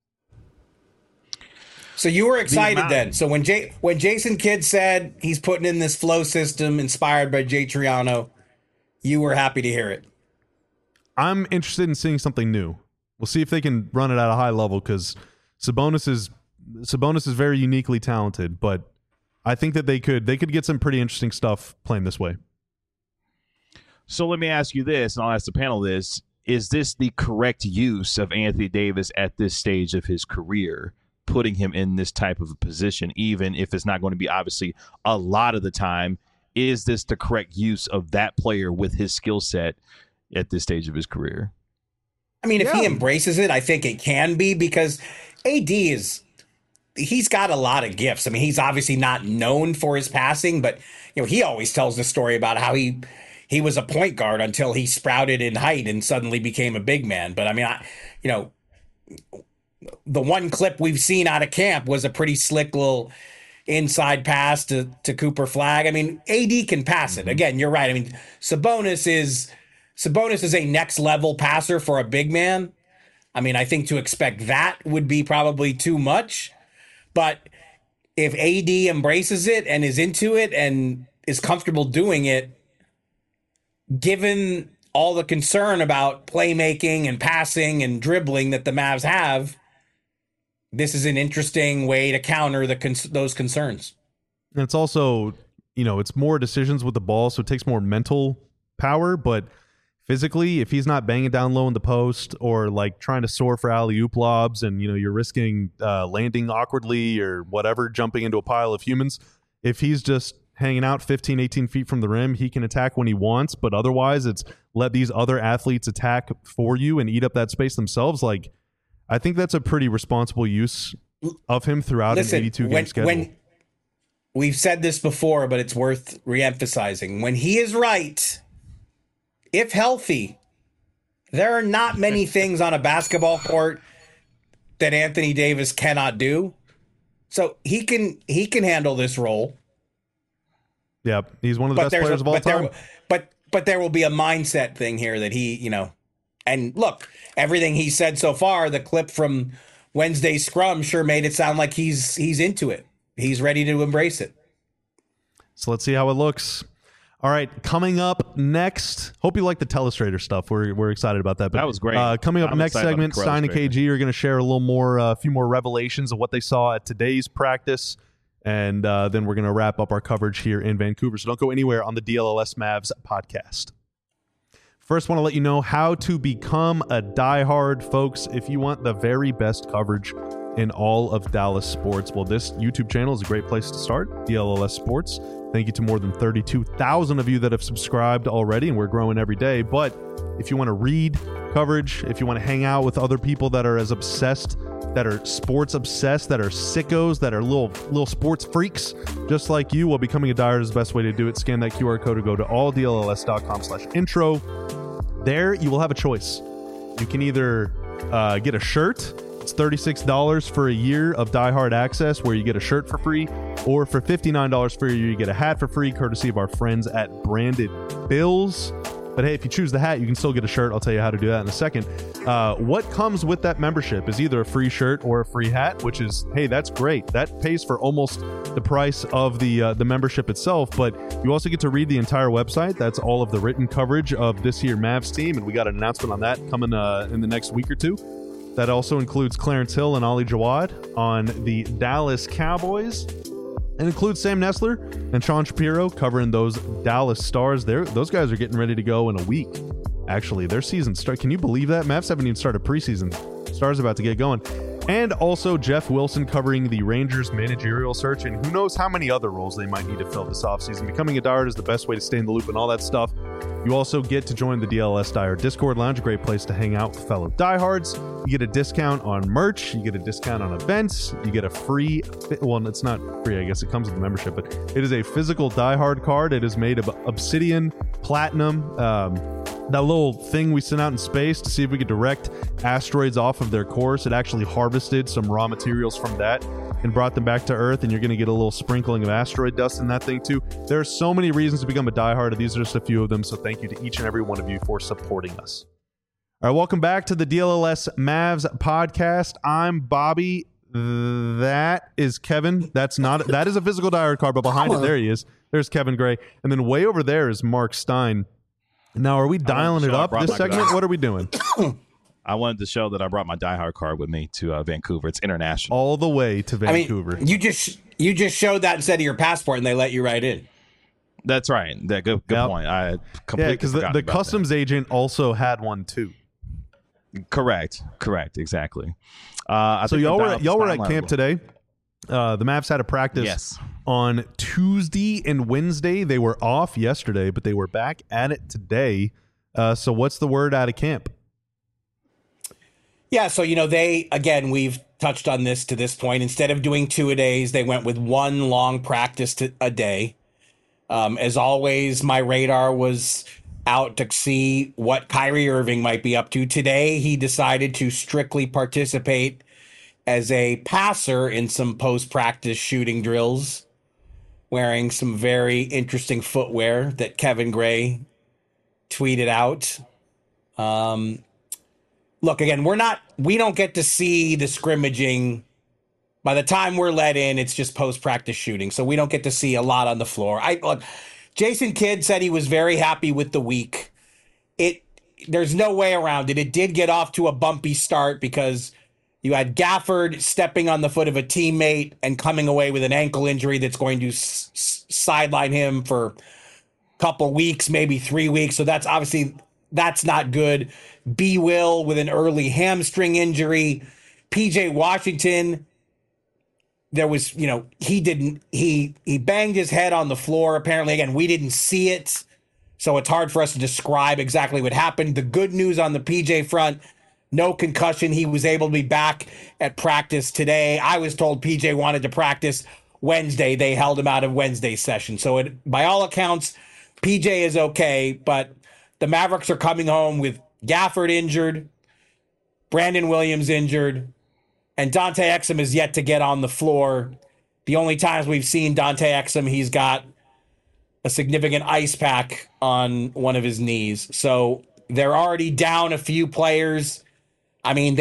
So you were excited then. So when Jason Kidd said he's putting in this flow system inspired by Jay Triano, you were happy to hear it. I'm interested in seeing something new. We'll see if they can run it at a high level, because Sabonis is very uniquely talented, but I think that they could get some pretty interesting stuff playing this way. So let me ask you this, and I'll ask the panel this. is this the correct use of Anthony Davis at this stage of his career, putting him in this type of a position, even if it's not going to be obviously a lot of the time? Is this the correct use of that player with his skill set at this stage of his career? I mean, if he embraces it, I think it can be, because AD he's got a lot of gifts. I mean, he's obviously not known for his passing, but he always tells the story about how he was a point guard until he sprouted in height and suddenly became a big man. But I mean, the one clip we've seen out of camp was a pretty slick little inside pass to Cooper Flagg. I mean, AD can pass it. Again, you're right. I mean, Sabonis is a next level passer for a big man. I mean, I think to expect that would be probably too much. But if AD embraces it and is into it and is comfortable doing it, given all the concern about playmaking and passing and dribbling that the Mavs have, this is an interesting way to counter those concerns. And it's also, it's more decisions with the ball, so it takes more mental power, but physically, if he's not banging down low in the post or like trying to soar for alley-oop lobs and, you're risking landing awkwardly or whatever, jumping into a pile of humans, if he's just hanging out 15, 18 feet from the rim, he can attack when he wants, but otherwise it's let these other athletes attack for you and eat up that space themselves. Like, I think that's a pretty responsible use of him throughout an 82-game schedule. We've said this before, but it's worth reemphasizing. When he is right, if healthy, there are not many things on a basketball court that Anthony Davis cannot do. So he can handle this role. Yeah, he's one of the best players of all time. But there will be a mindset thing here that he, and look, everything he said so far, the clip from Wednesday's scrum sure made it sound like he's into it. He's ready to embrace it. So let's see how it looks. All right, coming up next. Hope you like the Telestrator stuff. We're excited about that. But, that was great. Coming up next segment, Stein and KG are going to share a few more revelations of what they saw at today's practice, and then we're going to wrap up our coverage here in Vancouver. So don't go anywhere on the DLLS Mavs podcast. First, want to let you know how to become a diehard, folks. If you want the very best coverage in all of Dallas sports, well, this YouTube channel is a great place to start. DLLS Sports. Thank you to more than 32,000 of you that have subscribed already, and we're growing every day. But if you want to read coverage, if you want to hang out with other people that are as obsessed, that are sports obsessed, that are sickos, that are little sports freaks, just like you, well, becoming a diehard is the best way to do it. Scan that QR code or go to alldlls.com/intro. There, you will have a choice. You can either get a shirt. It's $36 for a year of diehard access, where you get a shirt for free, or for $59 for a year, you get a hat for free, courtesy of our friends at Branded Bills. But hey, if you choose the hat, you can still get a shirt. I'll tell you how to do that in a second. What comes with that membership is either a free shirt or a free hat, which is, hey, that's great. That pays for almost the price of the membership itself. But you also get to read the entire website. That's all of the written coverage of this here Mavs team, and we got an announcement on that coming in the next week or two. That also includes Clarence Hill and Ali Jawad on the Dallas Cowboys. And includes Sam Nessler and Sean Shapiro covering those Dallas Stars. Those guys are getting ready to go in a week. Actually, their season start. Can you believe that? Mavs haven't even started preseason. Stars about to get going. And also Jeff Wilson covering the Rangers managerial search, and who knows how many other roles they might need to fill this offseason. Becoming a diehard is the best way to stay in the loop and all that stuff. You also get to join the DLS Diehard Discord Lounge, a great place to hang out with fellow diehards. You get a discount on merch. You get a discount on events. You get a free, well, it's not free, I guess it comes with the membership, but it is a physical diehard card. It is made of obsidian, platinum, that little thing we sent out in space to see if we could direct asteroids off of their course. It actually harvested some raw materials from that and brought them back to Earth, and you're going to get a little sprinkling of asteroid dust in that thing too. There are so many reasons to become a diehard, and these are just a few of them, so thank you to each and every one of you for supporting us. All right, welcome back to the DLLS Mavs podcast. I'm Bobby. That is Kevin. That is a physical diehard card, but behind it, there he is. There's Kevin Gray. And then way over there is Mark Stein. Now, are we dialing it up this segment? What are we doing? I wanted to show that I brought my diehard card with me to Vancouver. It's international. All the way to Vancouver. I mean, you just showed that instead of your passport, and they let you right in. That's right. Good point. I completely because the customs agent also had one too. Correct, exactly. So y'all were at camp today. The Mavs had a practice on Tuesday and Wednesday. They were off yesterday, but they were back at it today. So what's the word out of camp? Yeah, so, we've touched on this to this point. Instead of doing 2-a-days, they went with one long practice a day. As always, my radar was out to see what Kyrie Irving might be up to. Today, he decided to strictly participate as a passer in some post-practice shooting drills, wearing some very interesting footwear that Kevin Gray tweeted out. Look, again, we don't get to see the scrimmaging. By the time we're let in, it's just post-practice shooting, so we don't get to see a lot on the floor. Look, Jason Kidd said he was very happy with the week. There's no way around it. It did get off to a bumpy start because you had Gafford stepping on the foot of a teammate and coming away with an ankle injury that's going to sideline him for a couple weeks, maybe 3 weeks. So that's not good. B. Will with an early hamstring injury. PJ Washington, there was, he banged his head on the floor. Apparently, again, we didn't see it, so it's hard for us to describe exactly what happened. The good news on the PJ front, no concussion. He was able to be back at practice today. I was told PJ wanted to practice Wednesday. They held him out of Wednesday's session. So by all accounts, PJ is okay, but the Mavericks are coming home with Gafford injured, Brandon Williams injured, and Dante Exum is yet to get on the floor. The only times we've seen Dante Exum, he's got a significant ice pack on one of his knees. So they're already down a few players. I mean,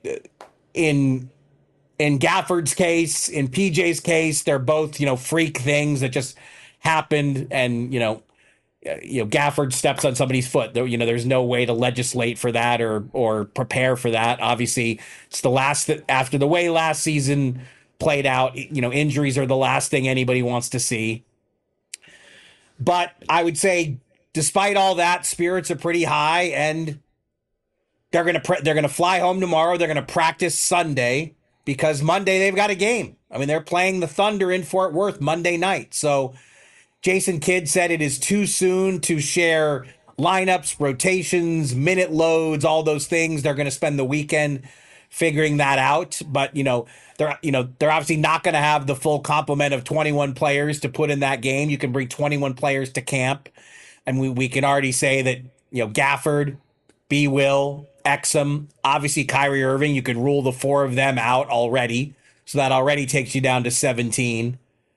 in Gafford's case, in PJ's case, they're both, freak things that just happened. And, Gafford steps on somebody's foot. There's no way to legislate for that or prepare for that. Obviously, it's after the way last season played out, injuries are the last thing anybody wants to see. But I would say, despite all that, spirits are pretty high, and they're gonna fly home tomorrow. They're gonna practice Sunday because Monday they've got a game. I mean, they're playing the Thunder in Fort Worth Monday night. So Jason Kidd said it is too soon to share lineups, rotations, minute loads, all those things. They're going to spend the weekend figuring that out. But, they're obviously not going to have the full complement of 21 players to put in that game. You can bring 21 players to camp. And we can already say that, Gafford, B. Will, Exum, obviously Kyrie Irving, you could rule the 4 of them out already. So that already takes you down to 17.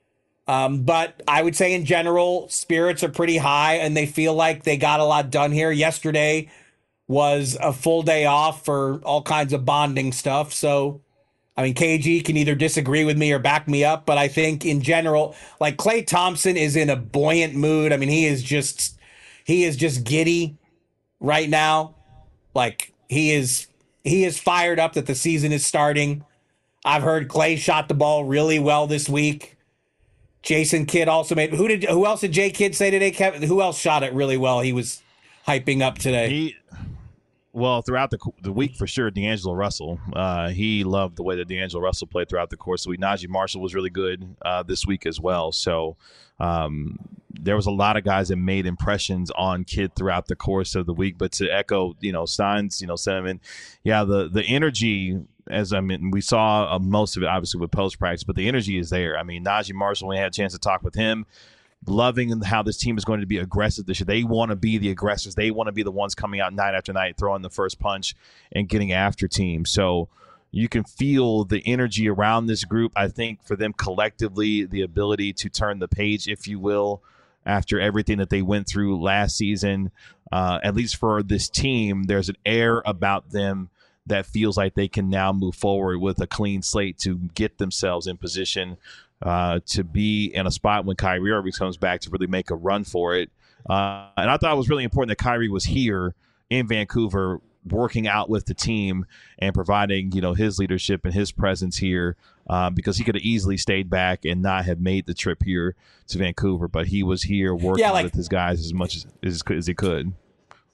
But I would say in general, spirits are pretty high and they feel like they got a lot done here. Yesterday was a full day off for all kinds of bonding stuff. So, KG can either disagree with me or back me up, but I think in general, like Klay Thompson is in a buoyant mood. He is just giddy right now. Like he is fired up that the season is starting. I've heard Klay shot the ball really well this week. Jason Kidd also made. Who else did Jay Kidd say today, Kevin? Who else shot it really well? He was hyping up today. Throughout the week for sure, D'Angelo Russell. He loved the way that D'Angelo Russell played throughout the course of the week. Najee Marshall was really good this week as well. So there was a lot of guys that made impressions on Kidd throughout the course of the week. But to echo, Stein's, sentiment, the energy. We saw most of it obviously with post practice, but the energy is there. Najee Marshall, when we had a chance to talk with him, loving how this team is going to be aggressive this year. They want to be the aggressors. They want to be the ones coming out night after night, throwing the first punch and getting after teams. So you can feel the energy around this group. I think for them collectively, the ability to turn the page, if you will, after everything that they went through last season, at least for this team, there's an air about them that feels like they can now move forward with a clean slate to get themselves in position to be in a spot when Kyrie Irving comes back to really make a run for it. And I thought it was really important that Kyrie was here in Vancouver working out with the team and providing, his leadership and his presence here because he could have easily stayed back and not have made the trip here to Vancouver. But he was here working with his guys as much as he could.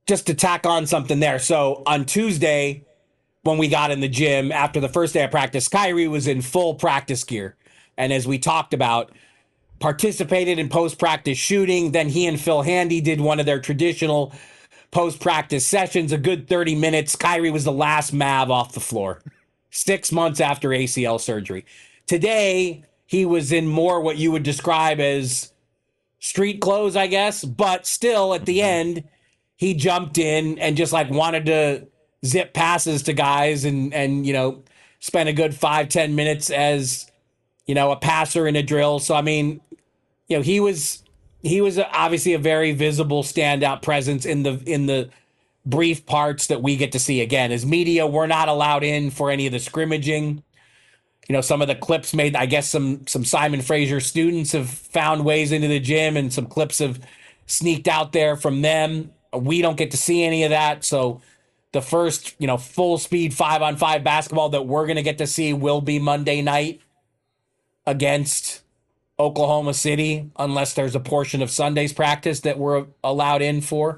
just to tack on something there. So on Tuesday, when we got in the gym after the first day of practice, Kyrie was in full practice gear. And as we talked about, participated in post-practice shooting. Then he and Phil Handy did one of their traditional post-practice sessions, a good 30 minutes. Kyrie was the last Mav off the floor, 6 months after ACL surgery. Today, he was in more what you would describe as street clothes, I guess. But still, at the end, he jumped in and just like wanted to zip passes to guys and you know, spend a good 5-10 minutes as, you know, a passer in a drill. So, I mean, you know, he was obviously a very visible standout presence in the brief parts that we get to see. Again, as media, we're not allowed in for any of the scrimmaging. You know, some of the clips made, I guess some Simon Fraser students have found ways into the gym and some clips have sneaked out there from them. We don't get to see any of that. So the first, you know, full speed 5-on-5 basketball that we're going to get to see will be Monday night against Oklahoma City, unless there's a portion of Sunday's practice that we're allowed in for.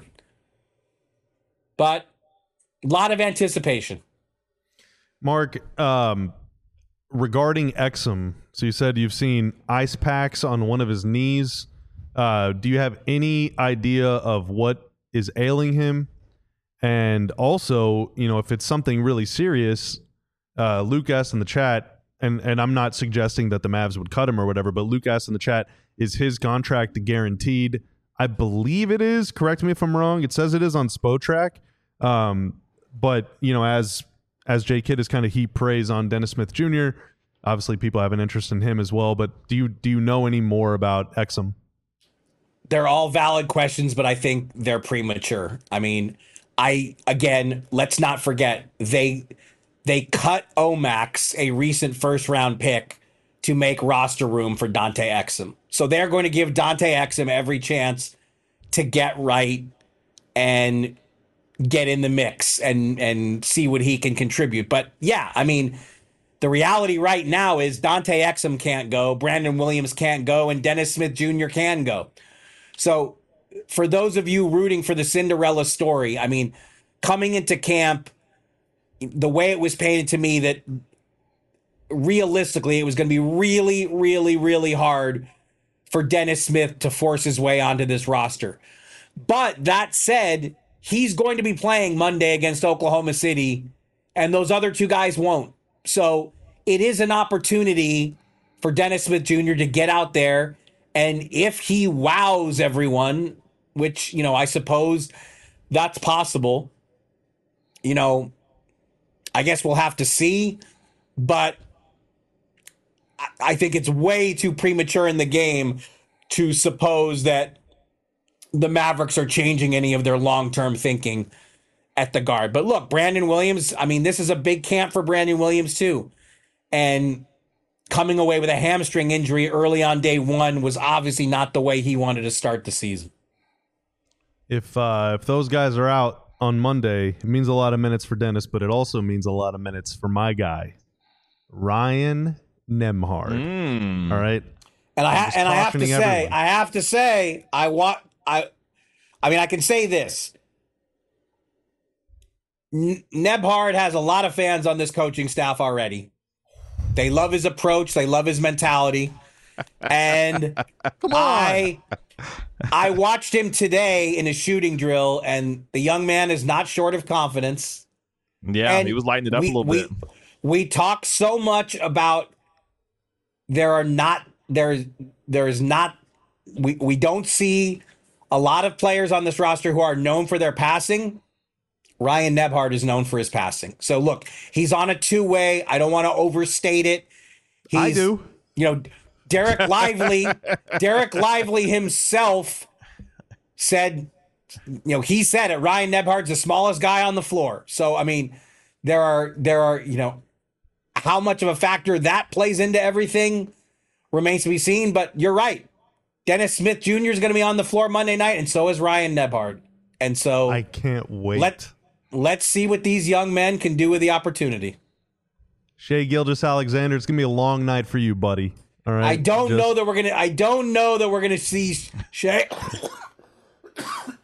But a lot of anticipation. Mark, regarding Exum, so you said you've seen ice packs on one of his knees. Do you have any idea of what is ailing him? And also, you know, if it's something really serious, Luke asked in the chat, and I'm not suggesting that the Mavs would cut him or whatever, but Luke asked in the chat, is his contract guaranteed? I believe it is. Correct me if I'm wrong. It says it is on Spotrac. But, you know, as Jay Kidd has kind of heaped praise on Dennis Smith Jr., obviously people have an interest in him as well. But do you know any more about Exum? They're all valid questions, but I think they're premature. I mean, let's not forget, they cut Omax, a recent first-round pick, to make roster room for Dante Exum. So they're going to give Dante Exum every chance to get right and get in the mix and see what he can contribute. But, yeah, I mean, the reality right now is Dante Exum can't go, Brandon Williams can't go, and Dennis Smith Jr. can go. So for those of you rooting for the Cinderella story, I mean, coming into camp, the way it was painted to me that realistically it was going to be really, really, really hard for Dennis Smith to force his way onto this roster. But that said, he's going to be playing Monday against Oklahoma City, and those other two guys won't. So it is an opportunity for Dennis Smith Jr. to get out there, and if he wows everyone, which, you know, I suppose that's possible, you know, I guess we'll have to see, but I think it's way too premature in the game to suppose that the Mavericks are changing any of their long-term thinking at the guard. But look, Brandon Williams, I mean, this is a big camp for Brandon Williams too. And coming away with a hamstring injury early on day one was obviously not the way he wanted to start the season. If those guys are out on Monday, it means a lot of minutes for Dennis, but it also means a lot of minutes for my guy, Ryan Nembhard. All right. And I have to say, I can say this. Nembhard has a lot of fans on this coaching staff already. They love his approach. They love his mentality. And Come on. I watched him today in a shooting drill, and the young man is not short of confidence. Yeah, and he was lighting it up a little bit. We talk so much about we don't see a lot of players on this roster who are known for their passing. Ryan Nembhard is known for his passing. So look, he's on a two-way. I don't want to overstate it. I do. You know, Derek Lively himself said, you know, he said it. Ryan Nembhard's the smallest guy on the floor. So I mean, there are, you know, how much of a factor that plays into everything remains to be seen. But you're right. Dennis Smith Jr. is going to be on the floor Monday night, and so is Ryan Nembhard. And so I can't wait. Let's see what these young men can do with the opportunity. Shai Gilgeous-Alexander, it's gonna be a long night for you, buddy. All right. I don't know that we're gonna see Shai.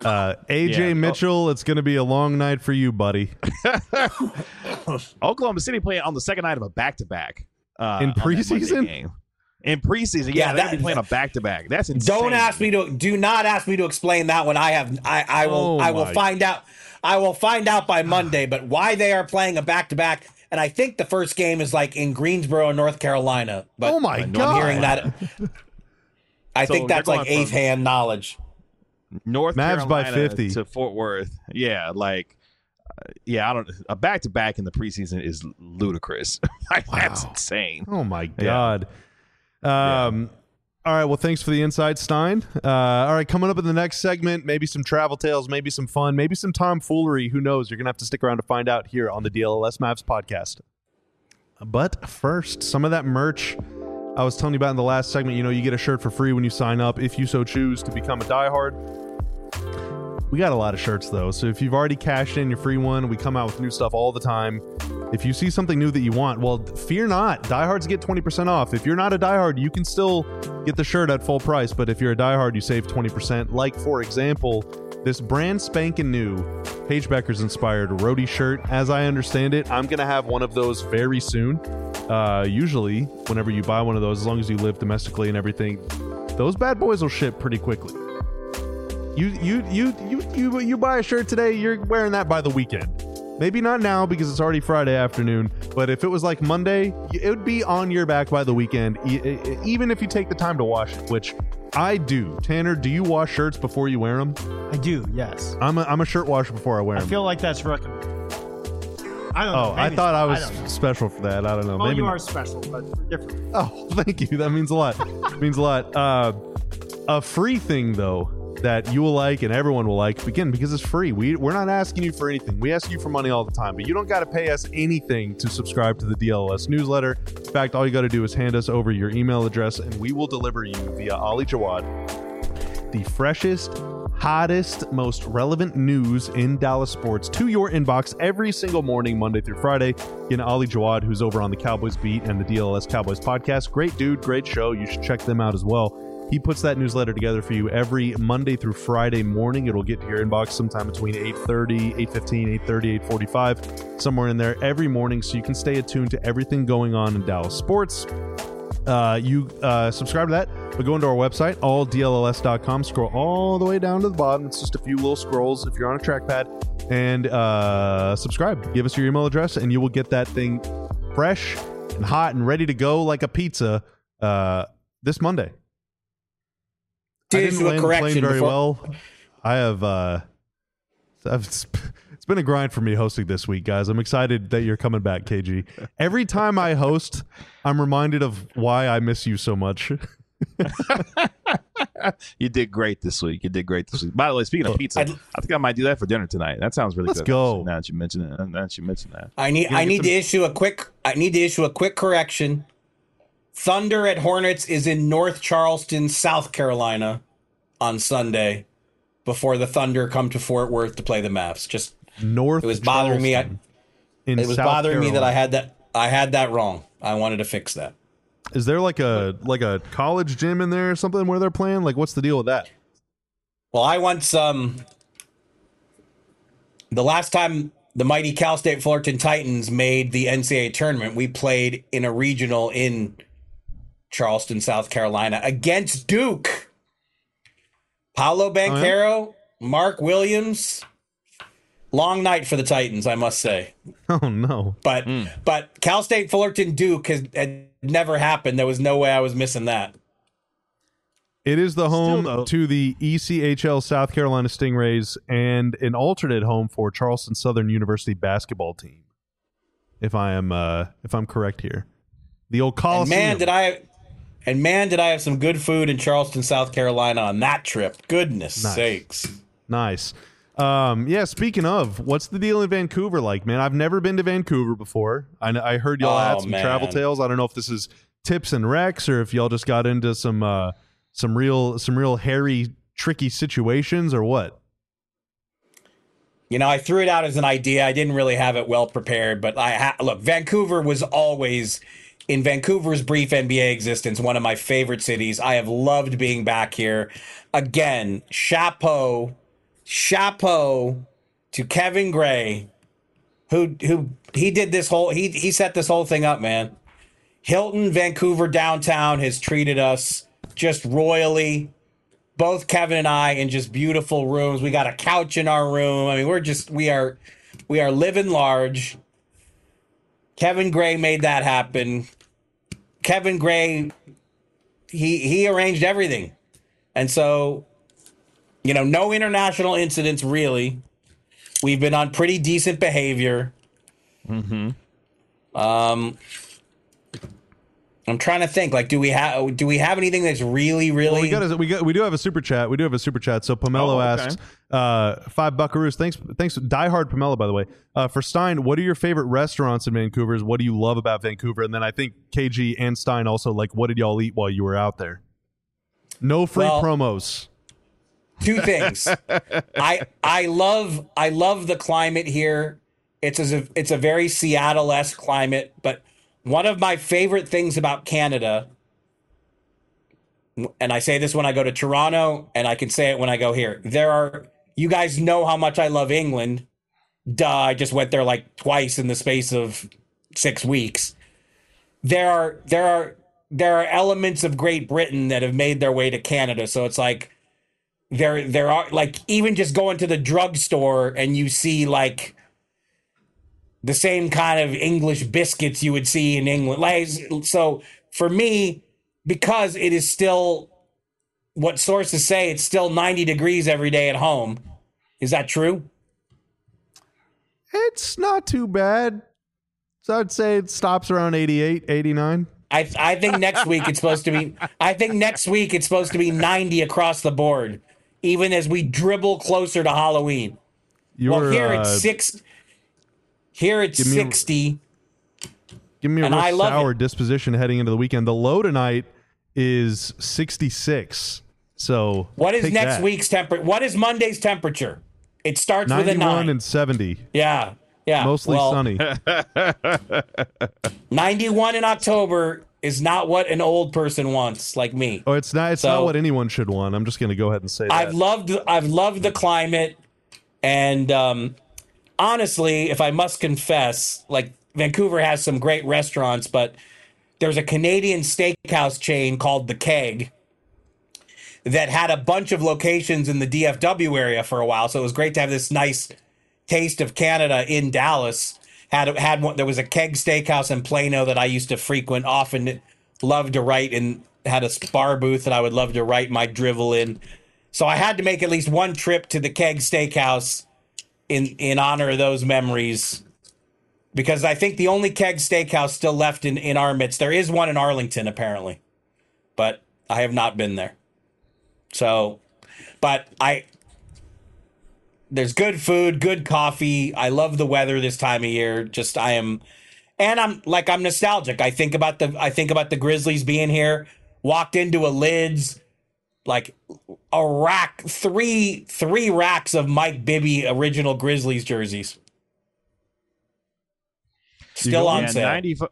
AJ Yeah. Mitchell, it's going to be a long night for you, buddy. Oklahoma City playing on the second night of a back-to-back In on that Monday preseason? game. In preseason, Yeah, they're gonna be playing a back-to-back. That's insane. Do not ask me to explain that one. I will my. find out. I will find out by Monday, but why they are playing a back-to-back, and I think the first game is like in Greensboro, North Carolina. But Oh, my I'm God. hearing that. I So think that's they're like going from- eighth-hand knowledge. North Mavs by Carolina 50. to Fort Worth. Yeah, I don't. A back-to-back in the preseason is ludicrous. That's insane. Oh, my God. All right, well, thanks for the insight, Stein. All right, coming up in the next segment, maybe some travel tales, maybe some fun, maybe some tomfoolery. Who knows? You're going to have to stick around to find out here on the DLLS Mavs podcast. But first, some of that merch I was telling you about in the last segment. You know, you get a shirt for free when you sign up, if you so choose to become a diehard. We got a lot of shirts, though, so if you've already cashed in your free one, we come out with new stuff all the time. If you see something new that you want, well, fear not. Diehards get 20% off. If you're not a diehard, you can still get the shirt at full price, but if you're a diehard, you save 20%. Like, for example, this brand spanking new Paige Beckers inspired roadie shirt. As I understand it, I'm going to have one of those very soon. Usually, whenever you buy one of those, as long as you live domestically and everything, those bad boys will ship pretty quickly. You buy a shirt today, you're wearing that by the weekend. Maybe not now because it's already Friday afternoon, but if it was like Monday, it would be on your back by the weekend, even if you take the time to wash it, which I do. Tanner, do you wash shirts before you wear them? I do, yes. I'm a shirt washer before I wear I them. feel like that's recommended. I don't know. Oh, I maybe thought I it's- was don't know. special for that. I don't know. Well, Maybe you not. are special, but different. Oh, thank you. That means a lot. Means a lot. A free thing, though, that you will like and everyone will like, again, because it's free. We're not asking you for anything. We ask you for money all the time, but you don't got to pay us anything to subscribe to the DLS newsletter. In fact, all you got to do is hand us over your email address, and we will deliver you via Ali Jawad the freshest, hottest, most relevant news in Dallas sports to your inbox every single morning, Monday through Friday. Again, Ali Jawad, who's over on the Cowboys Beat and the DLS Cowboys podcast. Great dude, great show. You should check them out as well. He puts that newsletter together for you every Monday through Friday morning. It'll get to your inbox sometime between 8:30, 8:15, 8:30, 8:45, somewhere in there every morning, so you can stay attuned to everything going on in Dallas sports. You subscribe to that by going to our website, alldlls.com. Scroll all the way down to the bottom. It's just a few little scrolls if you're on a trackpad. And subscribe. Give us your email address, and you will get that thing fresh and hot and ready to go like a pizza this Monday. To I didn't issue a land the plane correction very before- well. I have. It's been a grind for me hosting this week, guys. I'm excited that you're coming back, KG. Every time I host, I'm reminded of why I miss you so much. You did great this week. By the way, speaking of pizza, I think I might do that for dinner tonight. That sounds really Let's good. go. Actually, now that you mention that. I need to issue a quick correction. Thunder at Hornets is in North Charleston, South Carolina on Sunday before the Thunder come to Fort Worth to play the Mavs. Just North. it was bothering me. Charleston in It was South bothering me that Carolina. I had that wrong. I wanted to fix that. Is there like a college gym in there or something where they're playing? Like, what's the deal with that? Well, I once the last time the mighty Cal State Fullerton Titans made the NCAA tournament, we played in a regional in Charleston, South Carolina against Duke. Paolo Banchero, Mark Williams. Long night for the Titans, I must say. Oh no! But Cal State Fullerton Duke had never happened. There was no way I was missing that. It is the home though- to the ECHL South Carolina Stingrays and an alternate home for Charleston Southern University basketball team. If I'm correct here, the old Coliseum. And man, did I have some good food in Charleston, South Carolina on that trip. Goodness Nice. sakes. Nice. Yeah, speaking of, what's the deal in Vancouver like, man? I've never been to Vancouver before. I heard y'all had some travel tales. I don't know if this is tips and wrecks or if y'all just got into some real hairy, tricky situations or what. You know, I threw it out as an idea. I didn't really have it well prepared, but look, Vancouver was always, in Vancouver's brief NBA existence, one of my favorite cities. I have loved being back here. Again, chapeau chapeau to Kevin Gray, who he did this whole he set this whole thing up, man. Hilton Vancouver downtown has treated us just royally. Both Kevin and I in just beautiful rooms. We got a couch in our room. I mean, we are living large. Kevin Gray made that happen. Kevin Gray, he arranged everything. And so, no international incidents really. We've been on pretty decent behavior. Mm-hmm. I'm trying to think. Like, do we have anything that's really? Well, we do have a super chat. We do have a super chat. So Pomelo asks, $5 buckaroos. Thanks, diehard Pomelo, by the way. For Stein, what are your favorite restaurants in Vancouver? What do you love about Vancouver? And then I think KG and Stein also, like, what did y'all eat while you were out there? No free promos. Two things. I love the climate here. It's a very Seattle-esque climate, but one of my favorite things about Canada, and I say this when I go to Toronto, and I can say it when I go here. You guys know how much I love England. Duh, I just went there like twice in the space of 6 weeks. There are elements of Great Britain that have made their way to Canada, so it's like there are, like, even just going to the drugstore and you see like the same kind of English biscuits you would see in England. Like, so for me, because it is still what sources say, it's still 90 degrees every day at home. Is that true? It's not too bad. So I'd say it stops around 88, 89. I think next week it's supposed to be. I think next week it's supposed to be 90 across the board, even as we dribble closer to Halloween. Here it's 6. Here it's 60. Give me a real sour disposition heading into the weekend. The low tonight is 66. So what is next week's temperature? What is Monday's temperature? It starts with a 9. 91 and 70. Yeah. Mostly sunny. 91 in October is not what an old person wants, like me. Oh, it's not. It's not what anyone should want. I'm just going to go ahead and say that. I've loved the climate, and honestly, if I must confess, like, Vancouver has some great restaurants, but there's a Canadian steakhouse chain called The Keg that had a bunch of locations in the DFW area for a while. So it was great to have this nice taste of Canada in Dallas. Had one. There was a Keg Steakhouse in Plano that I used to frequent often. Loved to write, and had a bar booth that I would love to write my drivel in. So I had to make at least one trip to the Keg Steakhouse in honor of those memories, because I think the only Keg Steakhouse still left in our midst. There is one in Arlington apparently, but I have not been there. So, but there's good food, good coffee. I love the weather this time of year. I'm nostalgic. I think about the Grizzlies being here. Walked into a Lids, like a rack, three racks of Mike Bibby original Grizzlies jerseys. Still on sale.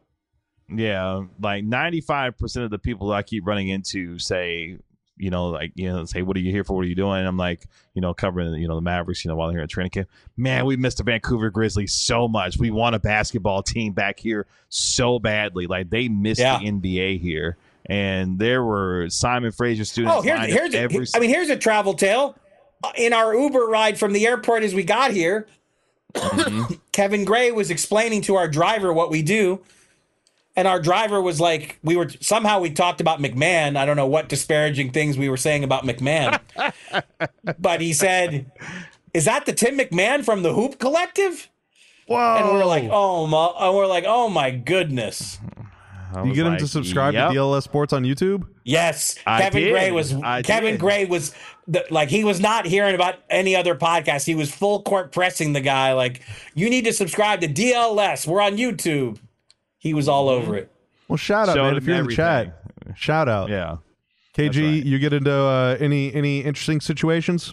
Like 95% of the people that I keep running into say, say, what are you here for? What are you doing? And I'm like, covering, the Mavericks, while they're here at training camp. Man, we missed the Vancouver Grizzlies so much. We want a basketball team back here so badly. Like, they missed the NBA here. And there were Simon Fraser students. Oh, here's a travel tale. In our Uber ride from the airport as we got here, Kevin Gray was explaining to our driver what we do. And our driver was like, we talked about McMahon. I don't know what disparaging things we were saying about McMahon. But he said, is that the Tim McMahon from the Hoop Collective? Whoa. And we're like, oh my goodness. You get him to subscribe to DLS Sports on YouTube? Yes. Kevin Gray was he was not hearing about any other podcast. He was full court pressing the guy like, you need to subscribe to DLS. We're on YouTube. He was all over it. Well, shout out, man. If you're in the chat, shout out. Yeah. KG, right. You get into any interesting situations?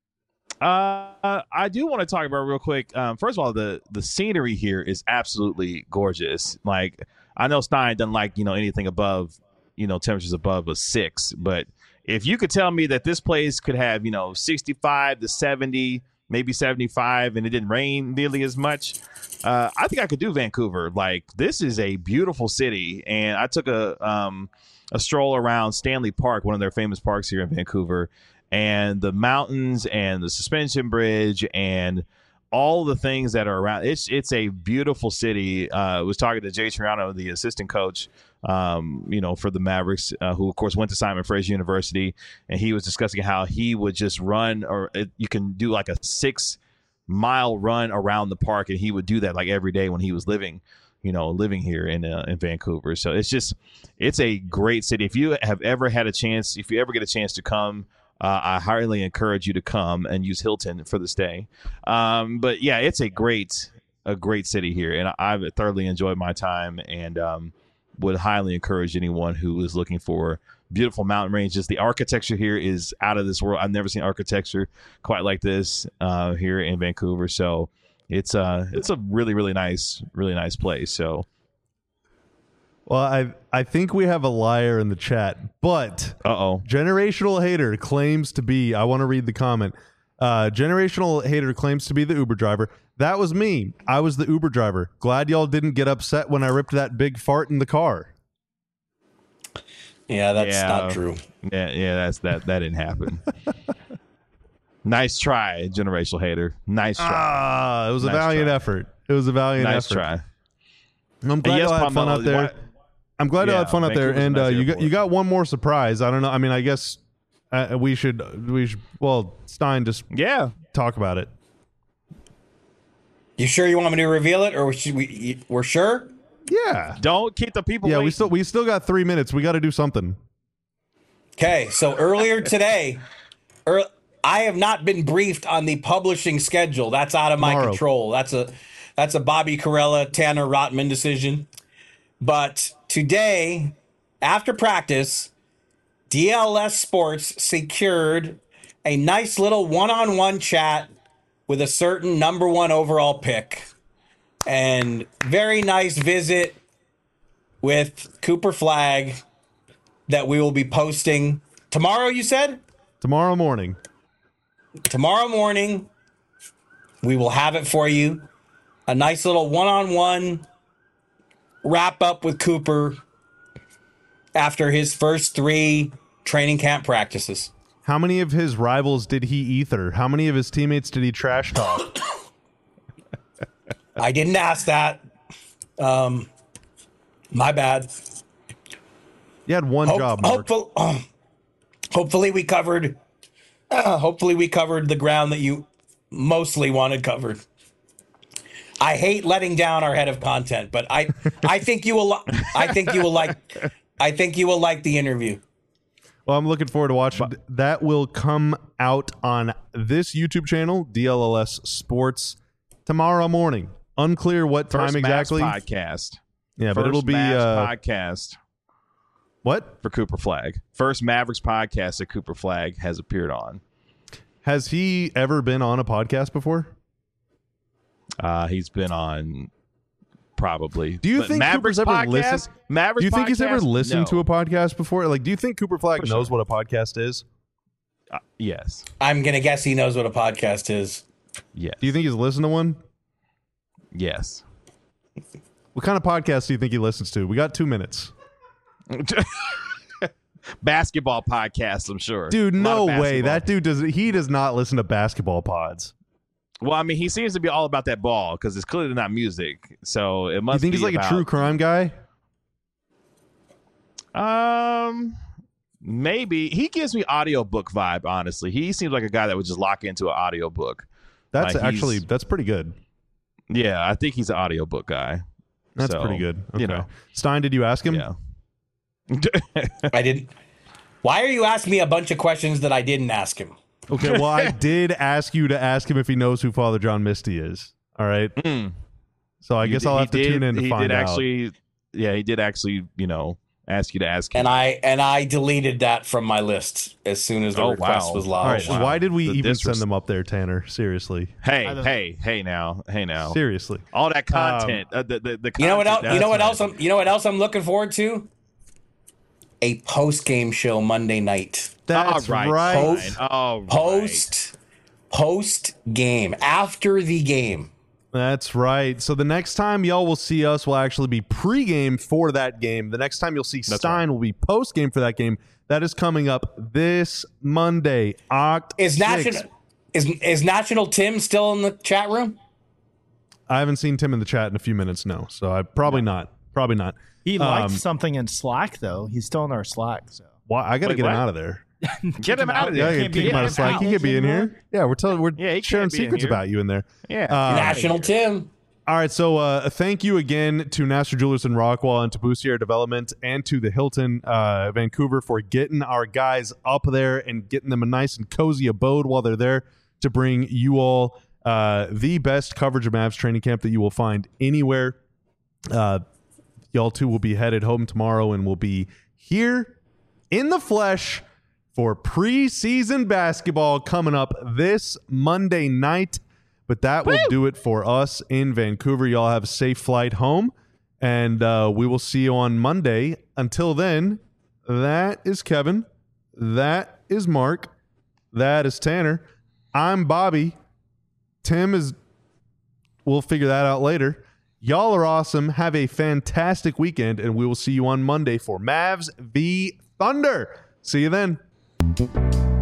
I do want to talk about real quick. First of all, the scenery here is absolutely gorgeous. Like, I know Stein doesn't like, anything above, temperatures above a 6, but if you could tell me that this place could have 65 to 70, maybe 75, and it didn't rain nearly as much, I think I could do Vancouver. Like, this is a beautiful city, and I took a stroll around Stanley Park, one of their famous parks here in Vancouver, and the mountains and the suspension bridge and all the things that are around. It's a beautiful city. I was talking to Jay Triano, the assistant coach, for the Mavericks, who of course went to Simon Fraser University, and he was discussing how he would just run, you can do like a 6-mile run around the park, and he would do that like every day when he was living here in Vancouver. So it's a great city. If you have ever had a chance, if you ever get a chance to come, I highly encourage you to come and use Hilton for the stay. But yeah, it's a great city here, and I've thoroughly enjoyed my time, and would highly encourage anyone who is looking for beautiful mountain ranges. The architecture here is out of this world. I've never seen architecture quite like this here in Vancouver. So it's a really, really nice place. So. Well, I think we have a liar in the chat, but Generational Hater claims to be, I want to read the comment. Generational Hater claims to be the Uber driver. That was me. I was the Uber driver. Glad y'all didn't get upset when I ripped that big fart in the car. Yeah, that's not true. Yeah, that didn't happen. Nice try, Generational Hater. Nice try. It was a valiant effort. It was a valiant effort. Nice try. I'm glad y'all had fun out there. I'm glad y'all had fun out there, and you got one more surprise. I don't know. I mean, I guess we should. Well, Stein, just talk about it. You sure you want me to reveal it, or we're sure? Yeah. Don't keep the people. Yeah, waiting. we still got 3 minutes. We got to do something. Okay, so earlier today, I have not been briefed on the publishing schedule. That's out of my control. That's a Bobby Carella, Tanner Rotman decision. But today, after practice, DLS Sports secured a nice little one-on-one chat with a certain number 1 overall pick. And very nice visit with Cooper Flagg that we will be posting tomorrow, you said? Tomorrow morning. Tomorrow morning, we will have it for you. A nice little one-on-one wrap up with Cooper after his first 3 training camp practices. How many of his rivals did he ether? How many of his teammates did he trash talk? I didn't ask that. My bad. You had one job, Mark. Hopefully we covered the ground that you mostly wanted covered. I hate letting down our head of content, but I think you will like the interview. Well, I'm looking forward to watching. That will come out on this YouTube channel, DLLS Sports, tomorrow morning. Unclear what time exactly. First podcast. Yeah, but it'll be podcast. What? For Cooper Flagg. First Mavericks podcast that Cooper Flagg has appeared on. Has he ever been on a podcast before? He's been on probably. Do you think Mavericks Cooper's ever podcast? listened? Mavericks do you think he's ever listened to No. a podcast before? Like, do you think Cooper Flagg knows what a podcast is? Yes. I'm going to guess he knows what a podcast is. Yes. Do you think he's listened to one? Yes. What kind of podcast do you think he listens to? We got 2 minutes. Basketball podcast, I'm sure. Dude, no way. That dude does not listen to basketball pods. Well, I mean, he seems to be all about that ball because it's clearly not music. So it must be. You think he's like about, a true crime guy? Maybe. He gives me audiobook vibe, honestly. He seems like a guy that would just lock into an audiobook. That's Like, actually that's pretty good. Yeah, I think he's an audiobook guy. That's So, pretty good. Okay. You know. Stein, did you ask him? Yeah. I didn't. Why are you asking me a bunch of questions that I didn't ask him? Okay, well, I did ask you to ask him if he knows who Father John Misty is. All right. So I guess I'll have to tune in to find out. He did actually, ask you to ask him. And I deleted that from my list as soon as the request was All lodged. right. Why did we even send them up there, Tanner? Seriously. Hey now. Seriously. All that content. The content. You know what else I'm looking forward to? a post-game show Monday night. That's All right. right. Fine. All right. Post game, after the game. That's right. So the next time y'all will see us will actually be pregame for that game. The next time you'll see Stein will be postgame for that game. That is coming up this Monday, Is 6th. National Tim still in the chat room? I haven't seen Tim in the chat in a few minutes, no. So I probably not. Probably not. He liked something in Slack though. He's still in our Slack. So Why I got to Wait, get him what? out of there. Get him out of Yeah, there. I Can't gotta kick be him out in of Slack. He house could be in anymore? here. Yeah, we're Yeah, he sharing can't be in secrets here. about you in there. Yeah. National Tim. All right, so thank you again to Nassar Jewelers in Rockwall and to Boussier Development and to the Hilton Vancouver for getting our guys up there and getting them a nice and cozy abode while they're there to bring you all the best coverage of Mavs training camp that you will find anywhere. Y'all two will be headed home tomorrow and will be here in the flesh for preseason basketball coming up this Monday night. But that will do it for us in Vancouver. Y'all have a safe flight home, and we will see you on Monday. Until then, that is Kevin. That is Mark. That is Tanner. I'm Bobby. Tim is... We'll figure that out later. Y'all are awesome. Have a fantastic weekend, and we will see you on Monday for Mavs v Thunder. See you then.